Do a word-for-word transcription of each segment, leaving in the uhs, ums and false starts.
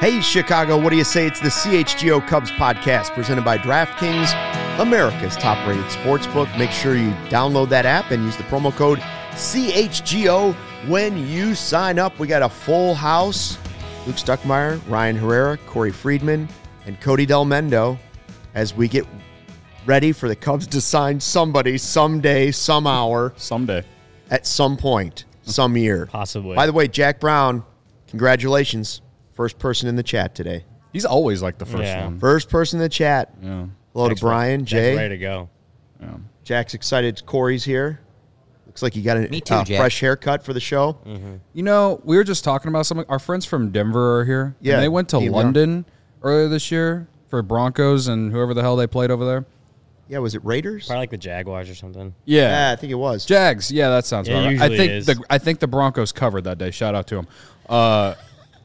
Hey, Chicago, what do you say? It's the C H G O Cubs podcast presented by DraftKings, America's top-rated sportsbook. Make sure you download that app and use the promo code C H G O when you sign up. We got a full house. Luke Stuckmeyer, Ryan Herrera, Corey Friedman, and Cody Del Mendo as we get ready for the Cubs to sign somebody someday, some hour. Someday. At some point, some year. Possibly. By the way, Jack Brown, congratulations. First person in the chat today. He's always like the first Yeah. one. First person in the chat. Yeah. Hello Jack's to Brian, ready, Jay. Jack's ready to go. Yeah. Jack's excited. Corey's here. Looks like you got a Me too, uh, Jack. fresh haircut for the show. Mm-hmm. You know, we were just talking about something. Our friends from Denver are here. Yeah, And they went to Team London earlier this year for Broncos and whoever the hell they played over there. Yeah, was it Raiders? Probably like the Jaguars or something. Yeah. Yeah, I think it was. Jags. Yeah, that sounds Yeah, right. I usually think is. the I think the Broncos covered that day. Shout out to them. Uh,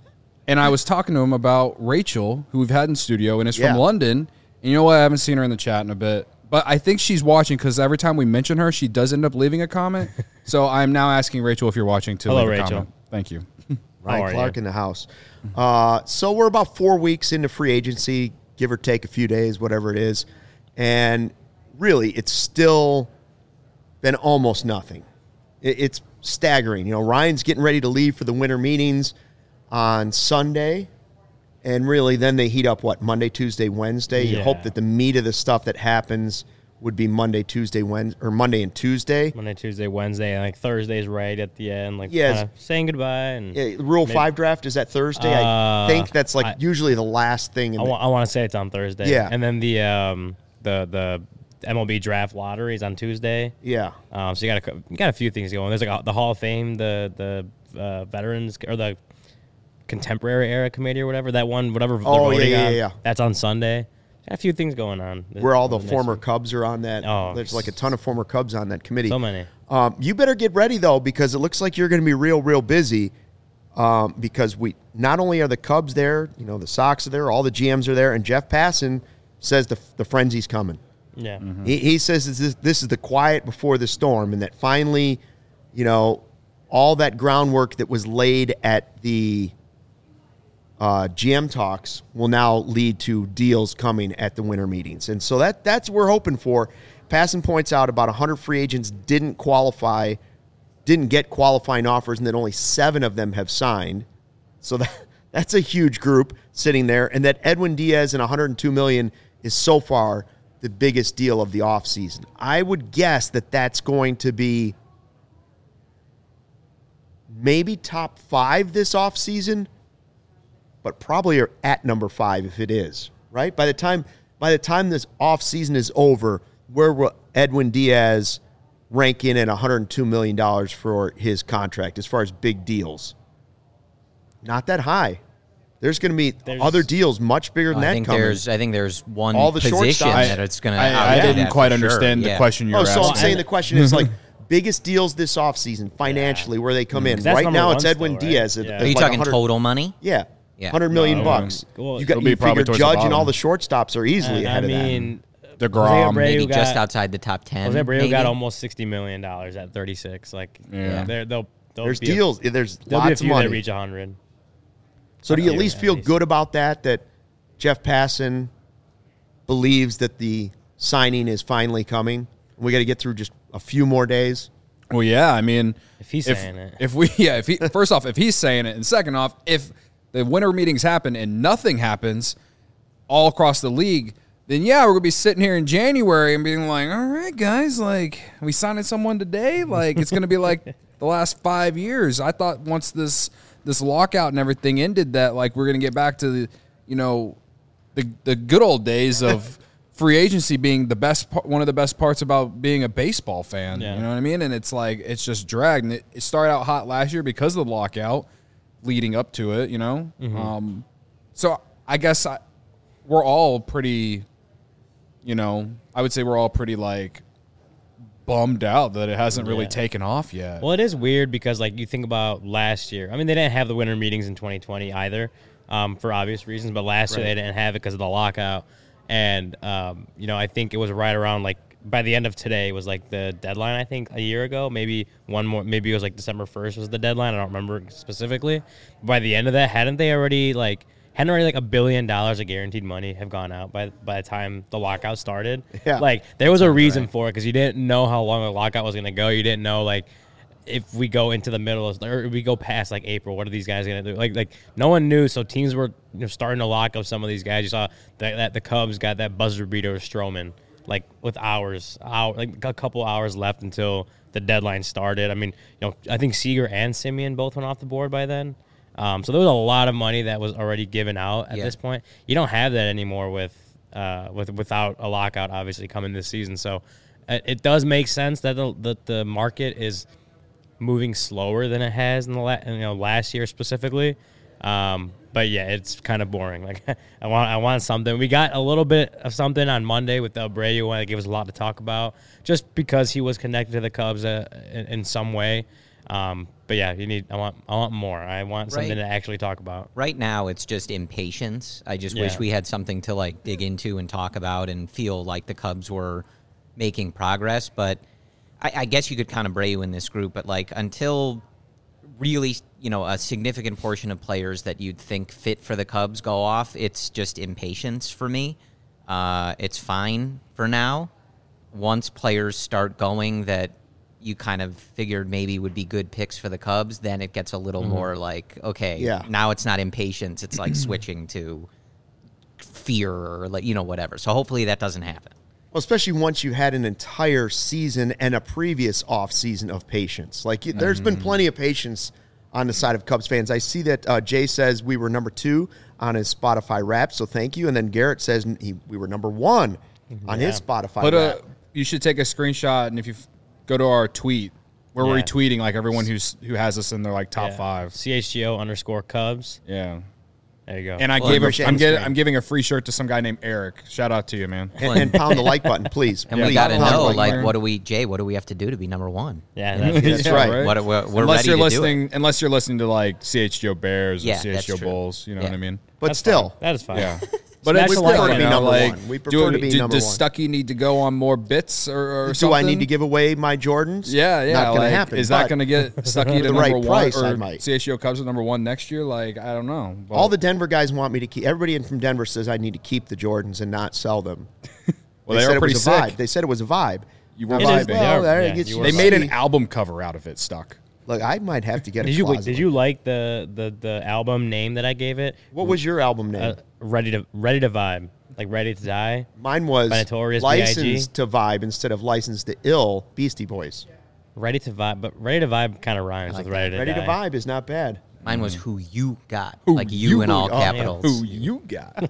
and I was talking to him about Rachel, who we've had in studio, and is Yeah. from London. And you know what? I haven't seen her in the chat in a bit, but I think she's watching because every time we mention her, she does end up leaving a comment. So I'm now asking Rachel if you're watching to Hello, leave a Rachel. comment. Thank you. Ryan How are Clark you? in the house. Uh, so we're about four weeks into free agency, give or take a few days, whatever it is. And really, it's still been almost nothing. It, it's staggering. You know, Ryan's getting ready to leave for the winter meetings on Sunday. And really, then they heat up, what, Monday, Tuesday, Wednesday? You Yeah. hope that the meat of the stuff that happens would be Monday, Tuesday, Wednesday, or Monday and Tuesday. Monday, Tuesday, Wednesday, and like Thursday's right at the end. Like Yes. kinda saying goodbye. And Yeah, Rule maybe- five draft is that Thursday. I Uh, think that's like I- usually the last thing. In I, the, wa- I want to say it's on Thursday. Yeah. And then the um the the M L B draft lottery is on Tuesday. yeah, Um, so you got a cou- you got a few things going. There's like a, the Hall of Fame, the the uh, veterans or the contemporary era committee or whatever that one, whatever. they're Oh, yeah, voting yeah, on, yeah. That's on Sunday. Got a few things going on. where all the Next former week. Cubs are on that. Oh, There's like a ton of former Cubs on that committee. So many. Um, you better get ready though, because it looks like you're going to be real, real busy. Um, because we not only are the Cubs there, you know, the Sox are there, all the G Ms are there, and Jeff Passan says the the frenzy's coming. Yeah. He, he says this is, this is the quiet before the storm, and that finally, you know, all that groundwork that was laid at the uh, G M talks will now lead to deals coming at the winter meetings. And so that that's what we're hoping for. Passan points out about one hundred free agents didn't qualify, didn't get qualifying offers, and that only seven of them have signed. So that that's a huge group sitting there, and that Edwin Diaz and one hundred two million dollars is so far the biggest deal of the offseason. I would guess that that's going to be maybe top five this offseason, but probably are at number five if it is, right? By the time by the time this offseason is over, where will Edwin Diaz rank in at one hundred two million dollars for his contract as far as big deals? Not that high. There's going to be There's- other deals much bigger than I that think coming. there's I think there's one All the position shortstops. that it's going to. I, I didn't quite understand the question you Oh, were so asking. I'm saying the question is like biggest deals this offseason financially where they come in. 'Cause that's Right number now one it's Edwin still, right? Diaz. At, Yeah. at Are you like talking 100 total money? Yeah. Yeah. one hundred million No, bucks. well, You got it'll be you probably figure towards the Judge and bottom. all the shortstops are easily And, ahead I of mean, The Jose Grom, Abreu Maybe got- just outside the top ten. Jose Abreu maybe? got almost sixty million dollars at thirty-six. Like, Yeah. they're, they'll, that. they'll There's be deals. There's A, there'll be a lots of few that money. reach one hundred. So do you at Yeah, least at feel least. good about that, that Jeff Passan believes that the signing is finally coming? We got to get through just a few more days. Well, yeah, I mean, If he's if, saying it. if we, yeah, if he, first off, if he's saying it, and second off, if the winter meetings happen and nothing happens all across the league, then yeah, we're gonna be sitting here in January and being like, all right, guys, like, we signing someone today, like, it's gonna be like the last five years. I thought once this this lockout and everything ended, that like we're gonna get back to the, you know, the the good old days of free agency being the best part, one of the best parts about being a baseball fan. Yeah. You know what I mean? And it's like it's just dragged. And it, it started out hot last year because of the lockout, leading up to it. You know, um, so I guess I, we're all pretty. You know, I would say we're all pretty like bummed out that it hasn't really Yeah. taken off yet. Well, it is weird because, like, you think about last year. I mean, they didn't have the winter meetings in twenty twenty either, um, for obvious reasons. But last year they didn't have it because of the lockout. And um, you know, I think it was right around like by the end of today was like the deadline. I think a year ago, maybe one more, maybe it was like December first was the deadline. I don't remember specifically. By the end of that, hadn't they already like hadn't already like a billion dollars of guaranteed money have gone out by by the time the lockout started. Yeah. Like there was a reason for it because you didn't know how long the lockout was going to go. You didn't know like if we go into the middle of, or we go past like April, what are these guys going to do? Like like no one knew. So teams were you know, starting to lock up some of these guys. You saw that, that the Cubs got that buzzer beater with Stroman like with hours, hour, like a couple hours left until the deadline started. I mean, you know, I think Seager and Simeon both went off the board by then. Um, so there was a lot of money that was already given out at Yeah. this point. You don't have that anymore with uh, with without a lockout obviously coming this season. So it, it does make sense that the, the the market is moving slower than it has in the la- you know last year specifically. Um, but yeah, it's kind of boring. Like I want I want something. We got a little bit of something on Monday with the Abreu one that gave us a lot to talk about, just because he was connected to the Cubs uh, in, in some way. Um, but yeah, you need. I want. I want more. I want something Right. to actually talk about. Right now, it's just impatience. I just wish Yeah. we had something to like dig into and talk about and feel like the Cubs were making progress. But I, I guess you could kind of Abreu in this group. But like until really, you know, a significant portion of players that you'd think fit for the Cubs go off, it's just impatience for me. Uh, it's fine for now. Once players start going that you kind of figured maybe would be good picks for the Cubs, then it gets a little Mm-hmm. more like, okay, Yeah. now it's not impatience. It's like switching to fear or, like, you know, whatever. So hopefully that doesn't happen. Well, especially once you had an entire season and a previous off season of patience. Like you, there's been plenty of patience on the side of Cubs fans. I see that uh, Jay says we were number two on his Spotify rap, so thank you. And then Garrett says he, we were number one on his Spotify But rap. uh, you should take a screenshot, and if you f- go to our tweet, we're Yeah. retweeting like everyone who's who has us in their like top Yeah. five. C H G O underscore Cubs. Yeah. There you go. And I Well, gave appreciate a, I'm it. getting I'm giving a free shirt to some guy named Eric. Shout out to you, man. and, and pound the like button, please. And Yeah, we Please got to pound the know, like like, button. what do we, Jay, what do we have to do to be number one? yeah, that's, That's Yeah, right. What, we're we're unless ready you're to listening, unless you're listening to like C H G O Bears Yeah, or C H G O that's true. Bulls, you know Yeah. what I mean? But that's still, fine. that is fine. Yeah. But Smash it's the still, like to you be know, number like, one. We do- prefer to be do- number does one. Stucky need to go on more bits or, or do something? I need to give away my Jordans? Yeah, yeah. Not going like, to happen. Is that but going to get Stucky to the number right one price, I or might. C H G O Cubs at number one next year? Like, I don't know. But all the Denver guys want me to keep. Everybody in from Denver says I need to keep the Jordans and not sell them. well, they, said are it pretty was a vibe. sick. They said it was a vibe. You were It is- vibing. they Well, are- there yeah, it gets you you were They to made see. an album cover out of it, Stuck. Look, I might have to get a Did you wait, closet did one. you like the, the the album name that I gave it? What was your album name? Uh, ready to ready to vibe, like Ready to Die. Mine was by Notorious B I G Licensed to Vibe instead of Licensed to Ill, Beastie Boys. Ready to vibe, but Ready to Vibe kind of rhymes like with Ready to Ready Die. to Vibe is not bad. Mine was who you got, Who like you, you in all got. capitals. Who you got?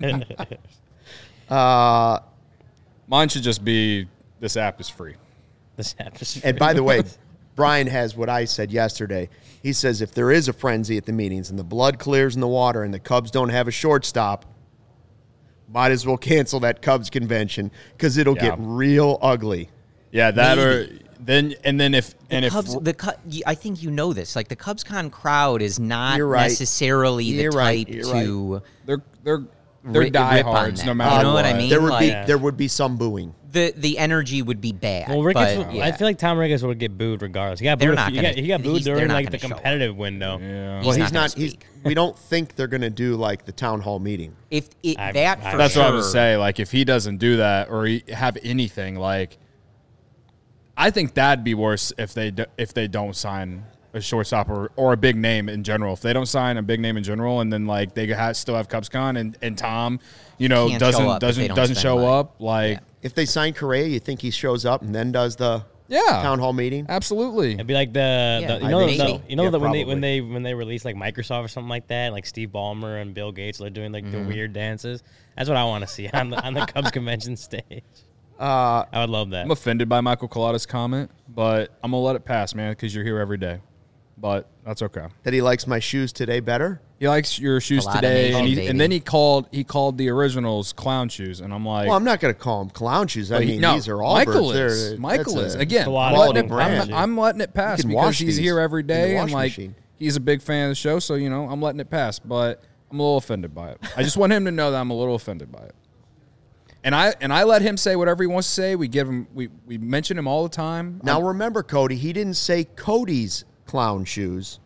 Uh, Mine should just be this app is free. This atmosphere. and by the way, Brian has what I said yesterday. He says if there is a frenzy at the meetings and the blood clears in the water and the Cubs don't have a shortstop, might as well cancel that Cubs convention because it'll Yeah. get real ugly. Yeah, that Maybe. or then and then if The and if Cubs, the Cu- y- I think you know this. Like the CubsCon crowd is not You're right. necessarily You're the right. type You're to they're they're they're ri- rip on diehards that. no matter You know what I mean? There would be Like- there would be some booing. the the energy would be bad. Well, Ricketts, but, would- yeah. I feel like Tom Ricketts would get booed regardless. He got They're booed. a not few- he gonna- got, he got booed he's- they're during not like the gonna show up. competitive window. Yeah. Well, He's he's not gonna not. He's, speak. we don't think they're going to do like the town hall meeting. if it, I- that I- for That's sure, what I would say. Like, if he doesn't do that or he have anything, like, I think that'd be worse if they do, if they don't sign a shortstop or, or a big name in general. If they don't sign a big name in general, and then like they ha still have CubsCon and, and Tom, you know, Can't show doesn't up if they doesn't don't doesn't spend show money. up, like, Yeah. If they sign Correa, you think he shows up and then does the yeah, town hall meeting? absolutely. It'd be like the, Yeah, the I you know think the, so. you know Yeah, that when they probably. when they when they release like Microsoft or something like that, like Steve Ballmer and Bill Gates, they're doing like Mm-hmm. the weird dances. That's what I want to see on the on the Cubs convention stage. Uh, I would love that. I'm offended by Michael Collada's comment, but I'm gonna let it pass, man, because you're here every day. But that's okay. that he likes my shoes today better. He likes your shoes Collada today, Nation, and, he, baby. and then he called he called the originals clown shoes, and I'm like, Well, I'm not going to call them clown shoes. I But he- mean, no, these are all Michael birds. is. They're- Michael that's is. a Again, I'm quality letting, it, brand. I'm, I'm letting it pass You can because wash he's these here every in the day, and washing like machine. he's a big fan of the show. So you know, I'm letting it pass. But I'm a little offended by it. I just want him to know that I'm a little offended by it. And I and I let him say whatever he wants to say. We give him we we mention him all the time. Now I'm- remember, Cody, he didn't say Cody's clown shoes. but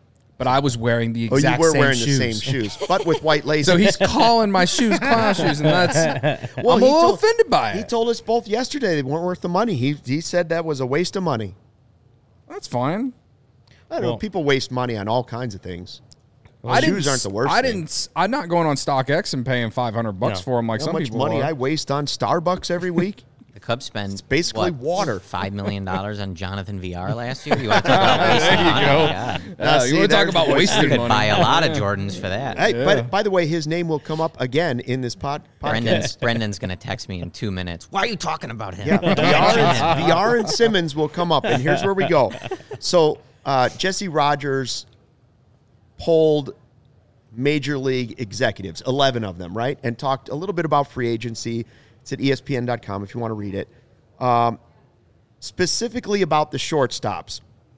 but I was wearing the Oh, exact you were same wearing shoes. the same shoes, but with white laces. So he's calling my shoes clown shoes, and that's well, I'm he a little told- offended by it. He told us both yesterday they weren't worth the money. He he said that was a waste of money. That's fine. I don't know. Well- People waste money on all kinds of things. I didn't shoes aren't the worst I thing. didn't. s- I'm not going on StockX and paying five hundred bucks No. for them like How some much people money are. I waste on Starbucks every week? The Cubs spend basically what, water. Five million dollars on Jonathan V R last year. You want to talk about wasting There you money? go. God. Now, Uh, see, you want to talk there's about the wasted Could money? buy a lot of Jordans for that. Hey, Yeah. but by the way, his name will come up again in this pod, podcast. Brendan's Brendan's gonna text me in two minutes. Why are you talking about him? Yeah, Don't V R, mention him. and, V R and Simmons will come up, and here's where we go. So uh, Jesse Rogers polled major league executives, eleven of them, right, and talked a little bit about free agency. It's at E S P N dot com if you want to read it. Um, specifically about the shortstops.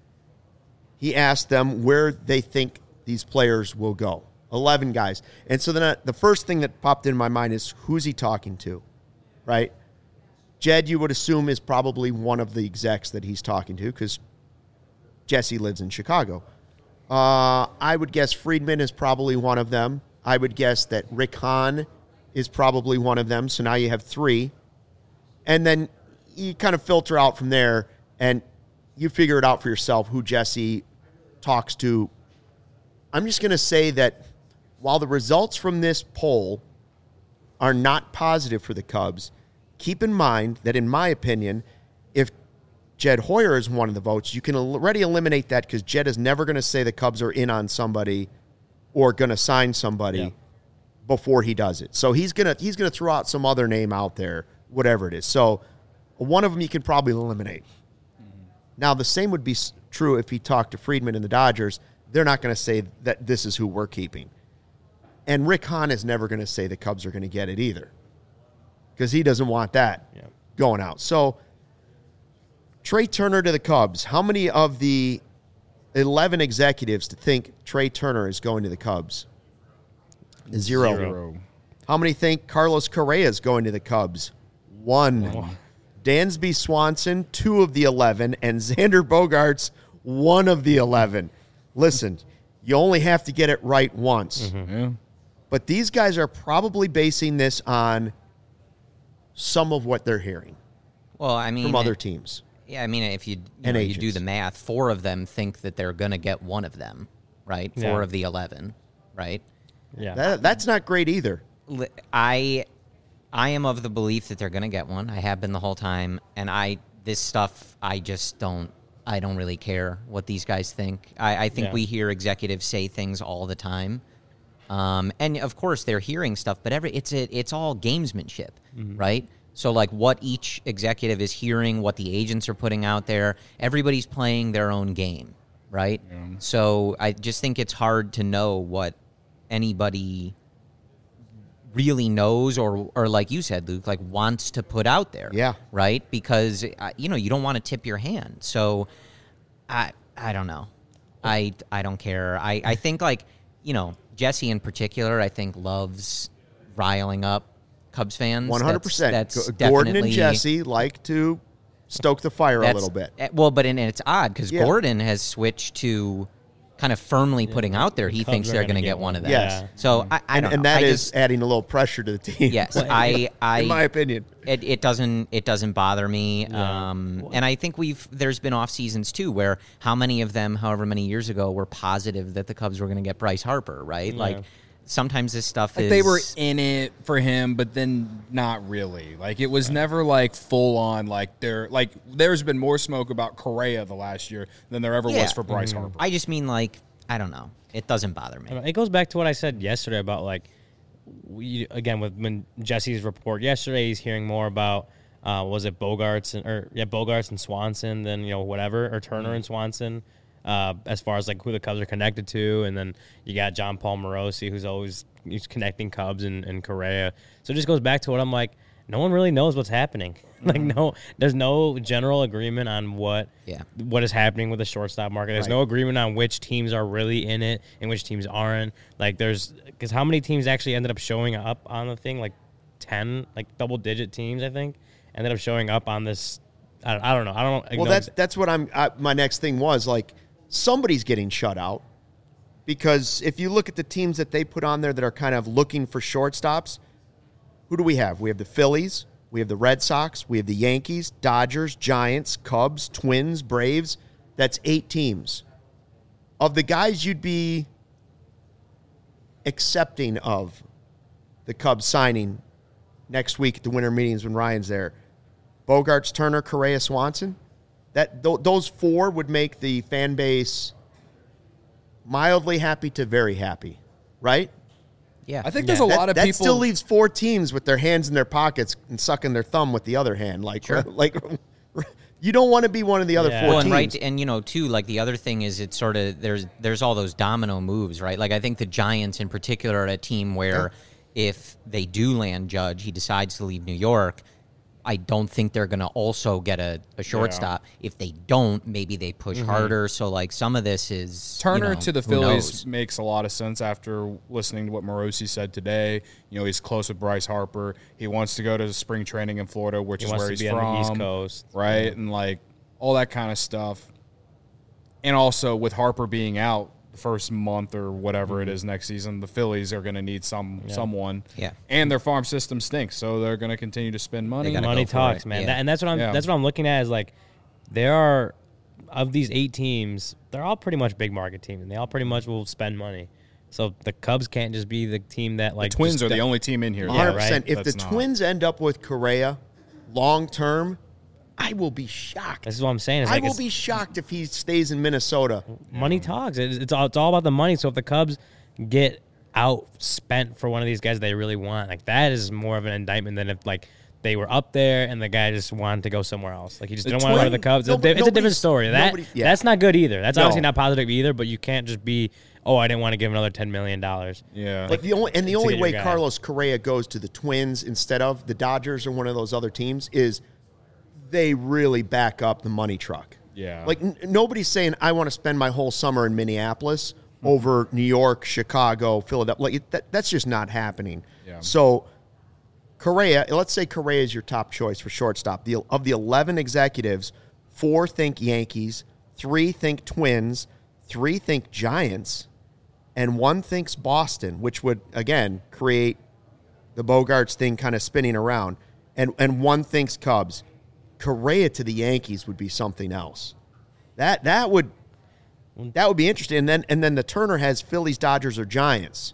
He asked them where they think these players will go. eleven guys. And so then uh, the first thing that popped in my mind is, who's he talking to, right? Jed, you would assume, is probably one of the execs that he's talking to because Jesse lives in Chicago. Uh, I would guess Friedman is probably one of them. I would guess that Rick Hahn is probably one of them. So now you have three. And then you kind of filter out from there and you figure it out for yourself who Jesse talks to. I'm just going to say that while the results from this poll are not positive for the Cubs, keep in mind that, in my opinion, if Jed Hoyer is one of the votes, you can already eliminate that because Jed is never going to say the Cubs are in on somebody or going to sign somebody Yeah. before he does it. So he's going to he's going to throw out some other name out there, whatever it is. So one of them you can probably eliminate. Mm-hmm. Now, the same would be s- true if he talked to Friedman and the Dodgers. They're not going to say that this is who we're keeping. And Rick Hahn is never going to say the Cubs are going to get it either because he doesn't want that Yeah. going out. So Trey Turner to the Cubs. How many of the eleven executives to think Trey Turner is going to the Cubs? Zero. Zero. How many think Carlos Correa is going to the Cubs? One. Dansby Swanson, two of the eleven, and Xander Bogaerts, one of the eleven. Listen, you only have to get it right once. Yeah. But these guys are probably basing this on some of what they're hearing Well, I mean, from other teams. yeah, I mean, if you you, And know, you do agents. the math, four of them think that they're gonna get one of them, right? Four Yeah. of the eleven, right? Yeah. That, that's not great either. Li- I I am of the belief that they're going to get one. I have been the whole time, and I this stuff I just don't I don't really care what these guys think. I, I think Yeah. we hear executives say things all the time, um, and of course they're hearing stuff, but every it's a, it's all gamesmanship, right? So like what each executive is hearing, what the agents are putting out there, everybody's playing their own game, right? So I just think it's hard to know what anybody really knows or or like you said, Luke, like wants to put out there. Yeah. Right? Because uh, you know, you don't want to tip your hand. So I I don't know. I I don't care. I I think like, you know, Jesse in particular, I think loves riling up Cubs fans. one hundred percent. That's, that's G- Gordon and definitely- Jesse like to stoke the fire a that's- little bit. eh, Well, but and it's odd because Yeah. Gordon has switched to kind of firmly putting out there he Cubs thinks are they're gonna going to get get one one. of them. Yes. So I, I And, don't and know. that I is just- adding a little pressure to the team. yes. I I in my opinion. It, it doesn't it doesn't bother me, um, and I think we've there's been off seasons too where how many of them, however many years ago, were positive that the Cubs were going to get Bryce Harper, right? Yeah. Like sometimes this stuff Like is they were in it for him, but then not really. Like it was never like full on. Like there, like there's been more smoke about Correa the last year than there ever Yeah. was for Bryce Harper. I just mean like I don't know. It doesn't bother I me. don't know. It goes back to what I said yesterday about like, we again with when Jesse's report yesterday, he's hearing more about uh, was it Bogarts and or yeah Bogarts and Swanson than you know whatever or Turner and Swanson uh, as far as like who the Cubs are connected to, and then you got John Paul Morosi who's always he's connecting Cubs and, and Correa. So it just goes back to what I'm like. No one really knows what's happening. Like no, there's no general agreement on what Yeah. what is happening with the shortstop market. There's Right. no agreement on which teams are really in it and which teams aren't. Like there's because how many teams actually ended up showing up on the thing? Like ten, like double digit teams, I think, ended up showing up on this. I don't, I don't know. I don't. Well, know that's ex- that's what I'm. I, my next thing was like somebody's getting shut out. because if you look at the teams that they put on there that are kind of looking for shortstops, who do we have? We have the Phillies, we have the Red Sox, we have the Yankees, Dodgers, Giants, Cubs, Twins, Braves. That's eight teams. Of the guys you'd be accepting of the Cubs signing next week at the winter meetings when Ryan's there, Bogarts, Turner, Correa, Swanson, that th- those four would make the fan base mildly happy to very happy, right? Yeah. I think Yeah. there's a That, lot of that people. still leaves four teams with their hands in their pockets and sucking their thumb with the other hand. Like, Sure. like you don't want to be one of the other Yeah. four Well, and teams. right, and you know, too, like the other thing is it's sort of there's there's all those domino moves, right? Like I think the Giants in particular are a team where if they do land Judge, he decides to leave New York. I don't think they're going to also get a, a shortstop. If they don't, maybe they push harder. So like some of this is Turner you know, to the who Phillies knows? makes a lot of sense after listening to what Morosi said today. You know, he's close with Bryce Harper. He wants to go to spring training in Florida, which He is wants where to he's be from, on the East Coast. right? And like all that kind of stuff. And also with Harper being out the first month or whatever it is next season, the Phillies are going to need some someone. Yeah. And their farm system stinks, so they're going to continue to spend money. gotta Money go for talks, it. man. Yeah. That, and that's what I'm. Yeah. That's what I'm looking at. Is like, there are of these eight teams, they're all pretty much big market teams, and they all pretty much will spend money. So the Cubs can't just be the team that like The Twins just are the go- only team in here. one hundred Yeah, percent. right? If the That's not- Twins end up with Correa long term, I will be shocked. This is what I'm saying. It's I like will it's- be shocked if he stays in Minnesota. money talks. It's, it's all it's all about the money. So if the Cubs get outspent for one of these guys they really want, like that is more of an indictment than if like they were up there and the guy just wanted to go somewhere else. Like he just The didn't want to go to Twin- the Cubs. no, It's, but a- it's a different nobody's- story. That nobody- yeah. that's not good either. That's No. obviously not positive either. But you can't just be, oh, I didn't want to give another ten million dollars. Yeah. Like the only and the to only get your way guy. Carlos Correa goes to the Twins instead of the Dodgers or one of those other teams is they really back up the money truck. Yeah. Like n- nobody's saying I want to spend my whole summer in Minneapolis over New York, Chicago, Philadelphia. Like it, that, that's just not happening. Yeah. So Correa, let's say Correa is your top choice for shortstop. The of the eleven executives, four think Yankees, three think Twins, three think Giants, and one thinks Boston, which would again create the Bogarts thing kind of spinning around. And and one thinks Cubs. Correa to the Yankees would be something else. That that would that would be interesting. And then and then the Turner has Phillies, Dodgers, or Giants.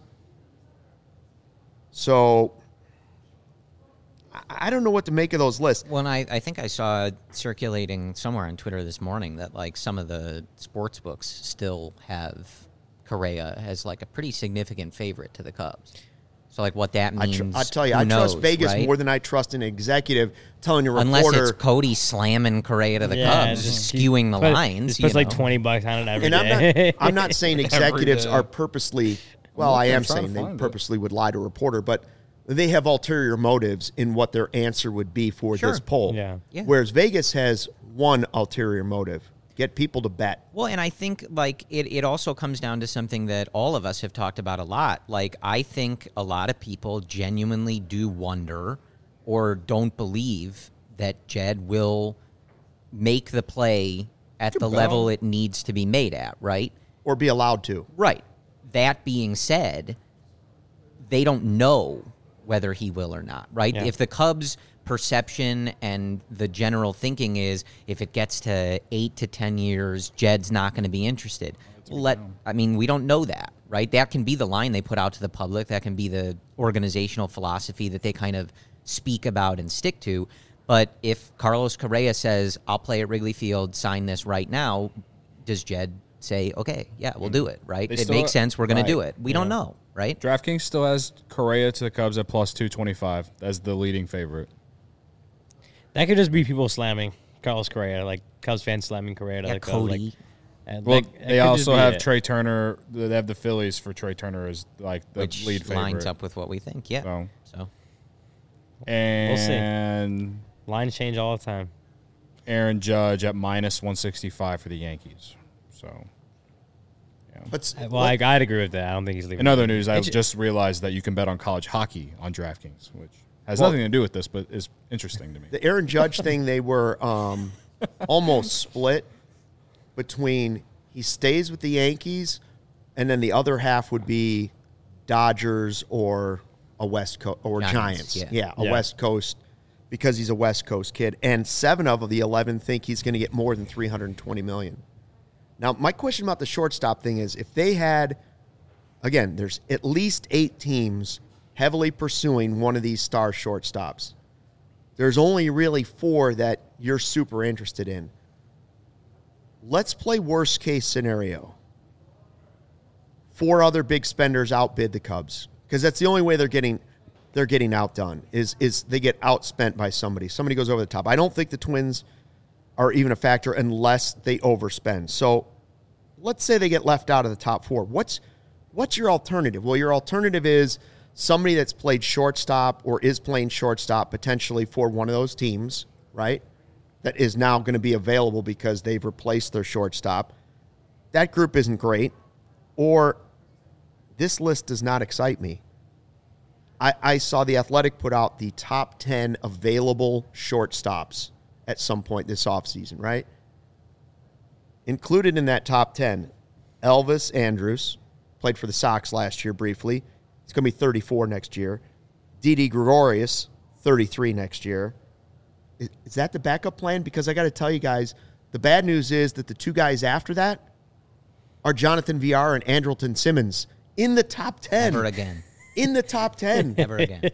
So I- I don't know what to make of those lists. Well, and I, I think I saw circulating somewhere on Twitter this morning that like some of the sports books still have Correa as like a pretty significant favorite to the Cubs. So like what that I, means, tr- I tell you, who I trust knows, Vegas right? more than I trust an executive telling a Unless reporter. it's Cody slamming Correa to the Yeah, Cubs, just- skewing the Put- lines. Just you puts like know. twenty bucks on it every and I'm day. not, I'm not saying executives day. are purposely, well, I looking, am I'm trying saying to they find it. purposely would lie to a reporter, but they have ulterior motives in what their answer would be for Sure. this poll. Yeah. Yeah. Whereas Vegas has one ulterior motive: get people to bet. Well, and I think like it, it also comes down to something that all of us have talked about a lot. Like I think a lot of people genuinely do wonder or don't believe that Jed will make the play at the bet level on- it needs to be made at, right? Or be allowed to. Right. That being said, they don't know whether he will or not, right? Yeah. If the Cubs' perception and the general thinking is if it gets to eight to ten years, Jed's not going to be interested. Let I mean, we don't know that, right? That can be the line they put out to the public. That can be the organizational philosophy that they kind of speak about and stick to. But if Carlos Correa says, I'll play at Wrigley Field, sign this right now, does Jed say, okay, yeah, we'll do it, right? They It still- makes sense. We're going right. to do it. We don't know, right? DraftKings still has Correa to the Cubs at plus two twenty-five as the leading favorite. That could just be people slamming Carlos Correa, like Cubs fans slamming Correa to Yeah, the Cubs. Cody. Like, and, Well, like, it they could just also be have it. Trey Turner. They have the Phillies for Trey Turner as like the Which lead favorite. lines up with what we think, yeah. So, So and Lines change all the time. Aaron Judge at minus one sixty-five for the Yankees. So, But Well, I, I'd agree with that. I don't think he's leaving. in other news, I It's- just realized that you can bet on college hockey on DraftKings, which has Well- nothing to do with this, but is interesting to me. the Aaron Judge thing, they were um, almost split between he stays with the Yankees and then the other half would be Dodgers or a West Coast or Giants, Giants. yeah. Yeah, a Yeah. West Coast because he's a West Coast kid. And seven of the eleven think he's going to get more than three hundred twenty million dollars. Now, my question about the shortstop thing is if they had, again, there's at least eight teams heavily pursuing one of these star shortstops. There's only really four that you're super interested in. Let's play worst case scenario. Four other big spenders outbid the Cubs because that's the only way they're getting they're getting outdone is is they get outspent by somebody. Somebody goes over the top. I don't think the Twins are even a factor unless they overspend. So let's say they get left out of the top four. What's what's your alternative? Well, your alternative is somebody that's played shortstop or is playing shortstop potentially for one of those teams, right? That is now going to be available because they've replaced their shortstop. That group isn't great. Or this list does not excite me. I, I saw The Athletic put out the top ten available shortstops at some point this offseason, right? Included in that top ten, Elvis Andrus, played for the Sox last year briefly. He's going to be thirty-four next year. Didi Gregorius, thirty-three next year. Is, is that the backup plan? Because I got to tell you guys, the bad news is that the two guys after that are Jonathan V R and Andrelton Simmons in the top ten. Never again. In the top ten. Never again.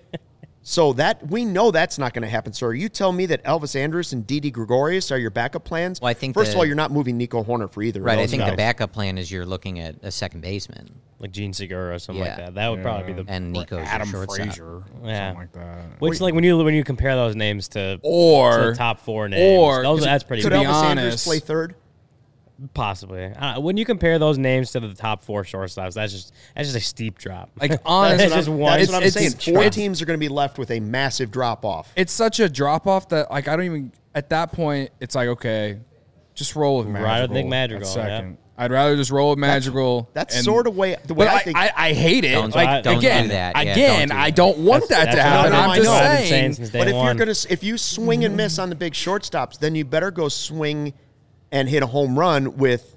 So that we know that's not going to happen. So are you telling me that Elvis Andrus and Didi Gregorius are your backup plans? Well, I think First the- of all, you're not moving Nico Horner for either Right. of I those think guys. the backup plan is you're looking at a second baseman. Like Gene Segura or something Yeah. like that. That would probably be the And Or Nico's Adam your shortstop. Frazier, Yeah. something like that. which like when you when you compare those names to Or to the top four names, or- those, that's pretty Could to big. be Elvis Andrus honest- play third? Possibly. Uh, when you compare those names to the top four shortstops, that's just that's just a steep drop. Like, honestly, That's just one. That's what I'm It's- saying. it's- Four it's- teams are going to be left with a massive drop off. It's such a drop off that like I don't even at that point it's like okay, just roll with Madrigal. Ride with Nick Madrigal, at second. I'd rather just roll with Madrigal. That's and- sort of way the way But I I, think. I, I hate it. Don't- like don't again, do that. Yeah, again, don't do I that. don't want That's- that to that's happen. what I I'm know, just I know. I've been saying saying. since day but if one. you're going to if you swing and miss on the big shortstops, then you better go swing and hit a home run with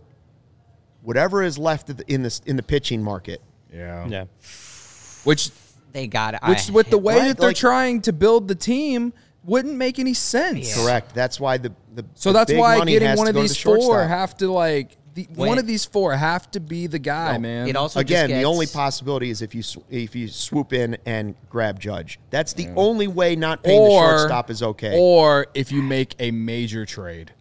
whatever is left in the in the pitching market. Yeah. yeah. Which They got it. which with the way Right, that they're like- trying to build the team wouldn't make any sense. Correct. That's why the, the So the that's big why money getting has one to of go to these the four shortstop. have to like the, When- one of these four have to be the guy, No, man. It also Again, just the only gets- possibility is if you sw- if you swoop in and grab Judge. That's the only way not paying the or shortstop is okay. Or if you make a major trade.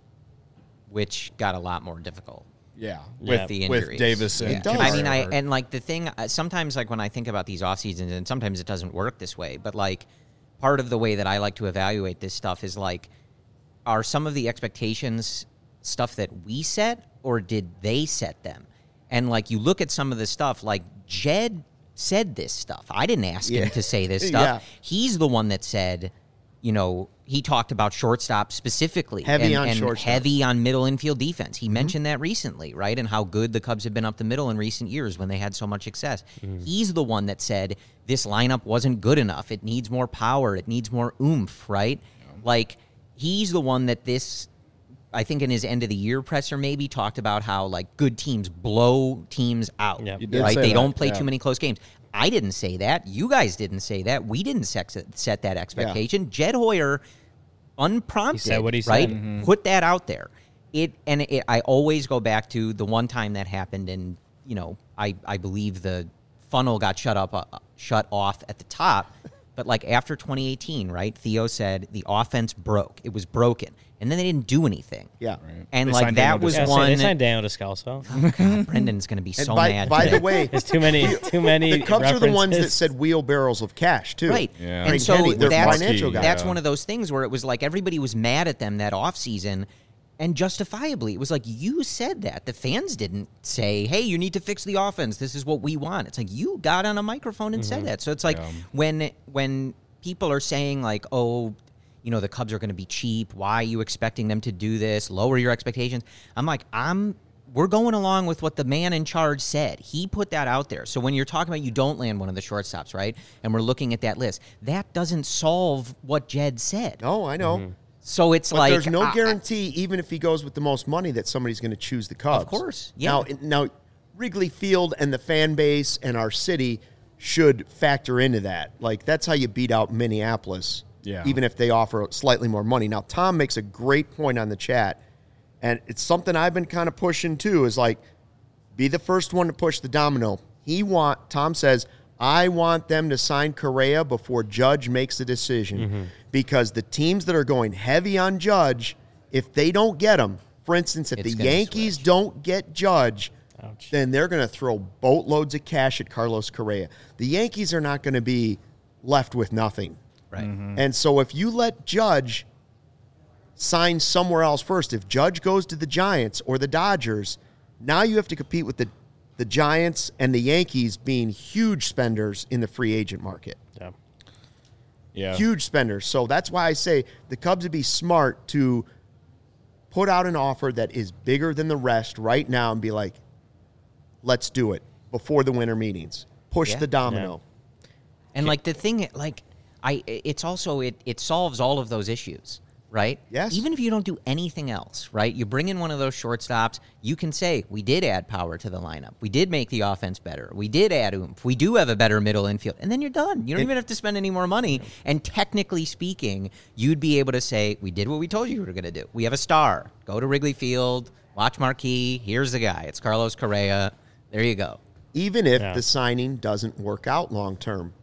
which got a lot more difficult. Yeah, Yeah. with The with injuries. Davis and It does. I mean, I Kiermaier. and like the thing uh, sometimes like when I think about these off seasons, and sometimes it doesn't work this way, but like part of the way that I like to evaluate this stuff is like, are some of the expectations stuff that we set, or did they set them? And like you look at some of the stuff, like Jed said this stuff. I didn't ask Yeah. him to say this stuff. Yeah. He's the one that said, you know, he talked about shortstop specifically, Heavy and, on and shortstop. heavy on middle infield defense. Mm-hmm. He mentioned that recently, right? And how good the Cubs have been up the middle in recent years when they had so much success. Mm-hmm. He's the one that said this lineup wasn't good enough. It needs more power. It needs more oomph, right? Like he's the one that this, I think in his end of the year presser maybe talked about how like good teams blow teams out, Yeah. You did right? say They that, don't play yeah. too many close games. I didn't say that. You guys didn't say that. We didn't sex set that expectation. Jed Hoyer, unprompted, He said what he said. right? Mm-hmm. Put that out there. It and it, I always go back to the one time that happened, and you know, I I believe the funnel got shut up, uh, shut off at the top. But like after twenty eighteen, right? Theo said the offense broke. It was broken, and then they didn't do anything. Yeah. And They like signed that Daniel was Yeah, so one. they signed Daniel Descalso. Oh, God, Brendan's going to be And so by, mad. by today. the way, There's too many too many. the Cubs are the ones that references. said wheelbarrows of cash too. Right. Yeah. And Craig so Henry, their that's, financial guy. that's Yeah. one of those things where it was like everybody was mad at them that offseason, and justifiably. It was like, you said that. The fans didn't say, hey, you need to fix the offense. This is what we want. It's like you got on a microphone and said that. So it's like Yeah. when when people are saying like, oh, you know, the Cubs are going to be cheap. Why are you expecting them to do this? Lower your expectations. I'm like, I'm we're going along with what the man in charge said. He put that out there. So when you're talking about you don't land one of the shortstops, right? And we're looking at that list, that doesn't solve what Jed said. No, I know. Mm-hmm. So it's But like there's no I- guarantee, even if he goes with the most money, that somebody's going to choose the Cubs. Of course, yeah. Now, now, Wrigley Field and the fan base and our city should factor into that. Like, that's how you beat out Minneapolis, Yeah. even if they offer slightly more money. Now, Tom makes a great point on the chat, and it's something I've been kind of pushing too, is like, be the first one to push the domino. He want Tom says, I want them to sign Correa before Judge makes the decision, mm-hmm. because the teams that are going heavy on Judge, if they don't get him, for instance, if It's the gonna Yankees switch. don't get Judge, Ouch. then they're going to throw boatloads of cash at Carlos Correa. The Yankees are not going to be left with nothing. Right. Mm-hmm. And so if you let Judge sign somewhere else first, if Judge goes to the Giants or the Dodgers, now you have to compete with the, the Giants and the Yankees being huge spenders in the free agent market. Yeah. Yeah. Huge spenders. So that's why I say the Cubs would be smart to put out an offer that is bigger than the rest right now and be like, let's do it before the winter meetings. Push Yeah. the domino. And like the thing, like I, it's also it it solves all of those issues, right? Yes. Even if you don't do anything else, right? You bring in one of those shortstops, you can say we did add power to the lineup, we did make the offense better, we did add oomph, we do have a better middle infield, and then you're done. You don't even have to spend any more money. And technically speaking, you'd be able to say we did what we told you we were going to do. We have a star. Go to Wrigley Field, watch Marquee. Here's the guy. It's Carlos Correa. There you go. Even if Yeah. the signing doesn't work out long term,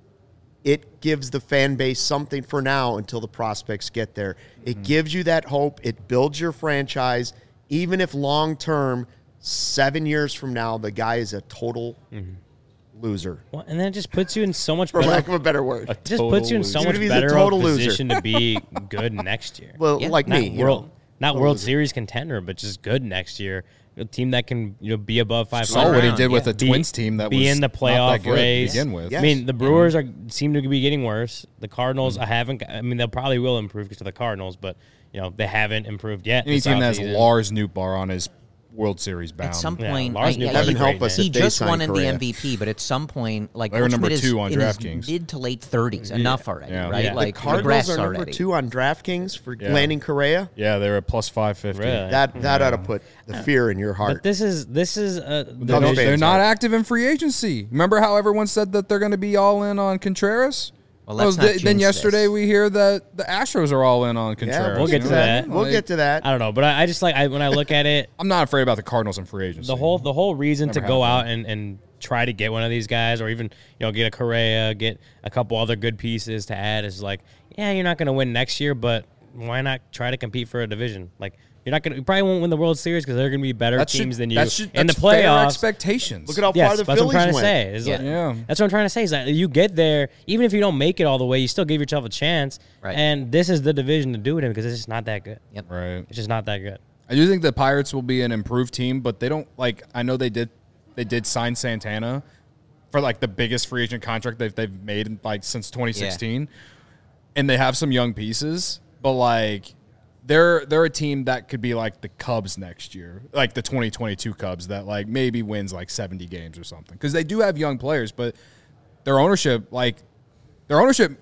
it gives the fan base something for now until the prospects get there. It Mm-hmm. gives you that hope. It builds your franchise. Even if long term, seven years from now, the guy is a total loser, Well, and then it just puts you in so much for better. lack of a better word. It just puts you in so loser. much He's a better of total a loser. position to be good next year. Well, Yeah. like not me, you world, know. not Total World loser. Series contender, but just good next year. A team that can you know be above five Saw what he around, did with yeah. the Twins team that be was in the not playoff that good race. to begin with. Yeah. I mean, the Brewers Mm-hmm. are seem to be getting worse. The Cardinals, I haven't. I mean, they probably will improve because of the Cardinals, but you know they haven't improved yet. Any this team that has offseason. Lars Nootbaar on his World Series bound. At some Yeah, point, Lars I- Newberg I- Heaven is help great, us man. he if they just sign won in the Correa. M V P, but at some point, like They were number Goldschmidt is two on in his DraftKings. mid to late thirties, enough already, Yeah. right? Yeah. The Like Cardinals regress are number already. two on DraftKings for Yeah. landing Correa. Yeah, they were at plus five fifty. Really? That that ought to put the fear in your heart. But this is this is a They Cubs don't- fans they're not are. active in free agency. Remember how everyone said that they're going to be all in on Contreras? Well, let's Well, not th- then jinx yesterday this. we hear that the Astros are all in on Contreras. we'll get You to know what I that. mean? We'll Like, get to that. I don't know, but I, I just like I, when I look at it, I'm not afraid about the Cardinals in free agency. the whole the whole reason to Never go happened. out and, and try to get one of these guys, or even you know get a Correa, get a couple other good pieces to add is like, yeah, you're not going to win next year, but why not try to compete for a division? Like you're not going to, you probably won't win the World Series because they're going to be better That teams should- than you that should- in the that's fair playoffs. expectations. Look at how Yes, far the that's what I'm Phillies trying to went. say. Is Yeah. like- Yeah. That's what I'm trying to say. Is that you get there, even if you don't make it all the way, you still give yourself a chance. Right. And this is the division to do it in because it's just not that good. Yep. Right. It's just not that good. I do think the Pirates will be an improved team, but they don't like. I know they did. They did sign Santana for like the biggest free agent contract they've they've made like since twenty sixteen, and they have some young pieces, but like. They're they're a team that could be like the Cubs next year, like the twenty twenty-two Cubs that like maybe wins like seventy games or something because they do have young players, but their ownership like their ownership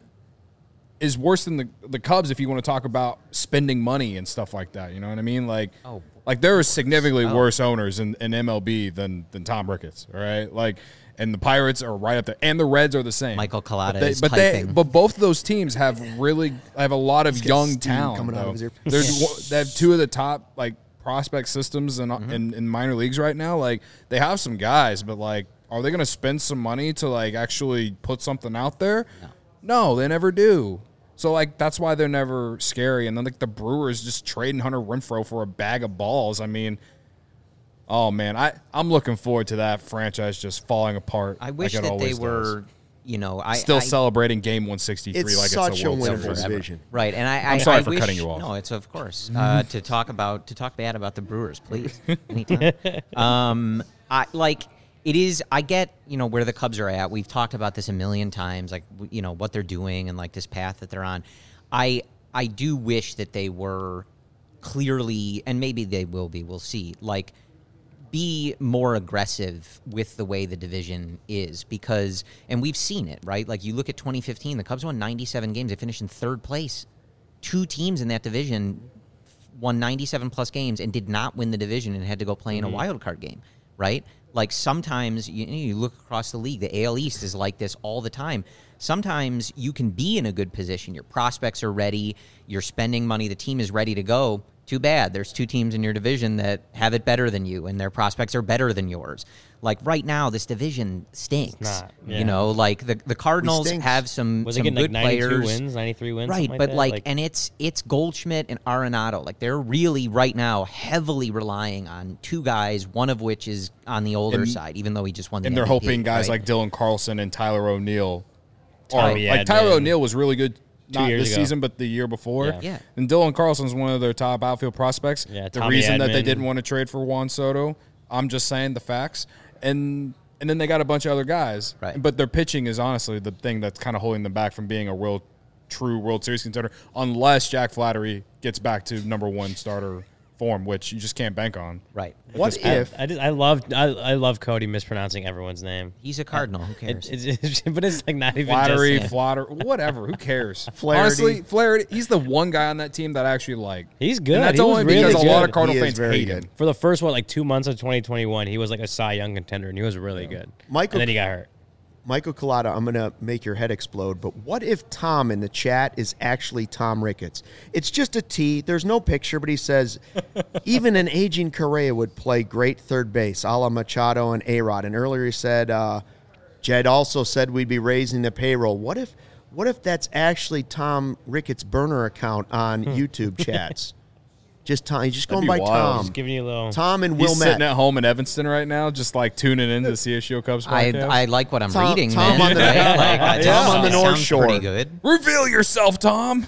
is worse than the the Cubs if you want to talk about spending money and stuff like that. You know what I mean? Like Oh, like there are significantly Oh. worse owners in, in M L B than than Tom Ricketts. All right, like. And the Pirates are right up there, and the Reds are the same. Michael Collada but they, is but they, typing. but both of those teams have really have a lot of got young steam talent coming out of though. his ear. There's one- they have two of the top like prospect systems in, Mm-hmm. in in minor leagues right now. Like they have some guys, but like, are they going to spend some money to like actually put something out there? No, no, they never do. So like that's why they're never scary. And then like the Brewers just trading Hunter Renfroe for a bag of balls. I mean. Oh man, I I'm looking forward to that franchise just falling apart. I wish like it that they always were, does. you know, I Still I, celebrating game one sixty-three It's like such it's a a World winnable Series. division. right, and I, I I'm sorry I for wish, cutting you off. No, it's of course uh, to talk about to talk bad about the Brewers, please. Anytime. um, I like it is. I get you know where the Cubs are at. We've talked about this a million times, like w- you know what they're doing and like this path that they're on. I I do wish that they were clearly, and maybe they will be. We'll see. Like. Be more aggressive with the way the division is because, and we've seen it, right? Like you look at twenty fifteen, the Cubs won ninety-seven games. They finished in third place. Two teams in that division won ninety-seven plus games and did not win the division and had to go play in a wild card game, right? Like sometimes you, you look across the league, the A L East is like this all the time. Sometimes you can be in a good position. Your prospects are ready. You're spending money. The team is ready to go. Too bad. There's two teams in your division that have it better than you, and their prospects are better than yours. Like right now, this division stinks. It's not, yeah. You know, like the the Cardinals stinks. have some, Was some it getting good like ninety-two players. wins, ninety-three wins? Right, something but that? like, and it's it's Goldschmidt and Arenado. Like they're really right now heavily relying on two guys, one of which is on the older And- side, even though he just won the And they're M V P, hoping guys right? like Dylan Carlson and Tyler O'Neill. Or, Oh, yeah, like Tyler man. O'Neill was really good. Two Not years this ago. season, but the year before. Yeah. Yeah. And Dylan Carlson's one of their top outfield prospects. Yeah, the Tommy reason that they Edman. didn't want to trade for Juan Soto, I'm just saying the facts. And and then they got a bunch of other guys. Right. But their pitching is honestly the thing that's kind of holding them back from being a real, true World Series contender, unless Jack Flaherty gets back to number one starter form, which you just can't bank on. Right. What I, if I, just, I love I, I love Cody mispronouncing everyone's name. He's a Cardinal. Who cares? It, it's, it's, but it's like not even Flattery, just flatter, whatever. Who cares? Flaherty. Honestly, Flaherty, he's the one guy on that team that I actually like. He's good. And that's He was only really because a lot good. of Cardinal He is fans very hate good. him. for the first what like two months of twenty twenty-one. He was like a Cy Young contender, and he was really good. Michael- and then he got hurt. Michael Collada, I'm going to make your head explode, but what if Tom in the chat is actually Tom Ricketts? It's just a T. There's no picture, but he says, even an aging Correa would play great third base, a la Machado and A-Rod. And earlier he said, uh, Jed also said we'd be raising the payroll. What if what if that's actually Tom Ricketts' burner account on YouTube chats? Just Tom. He's just That'd going be by wild. Tom. Just giving you a little. Tom and He's Will sitting Matt. at home in Evanston right now, just like tuning in to the C S U Cubs I podcast. I like what I'm Tom- reading. Tom man. on the- Right? Like, I- Tom on the it North sounds Shore. Pretty good. Reveal yourself, Tom.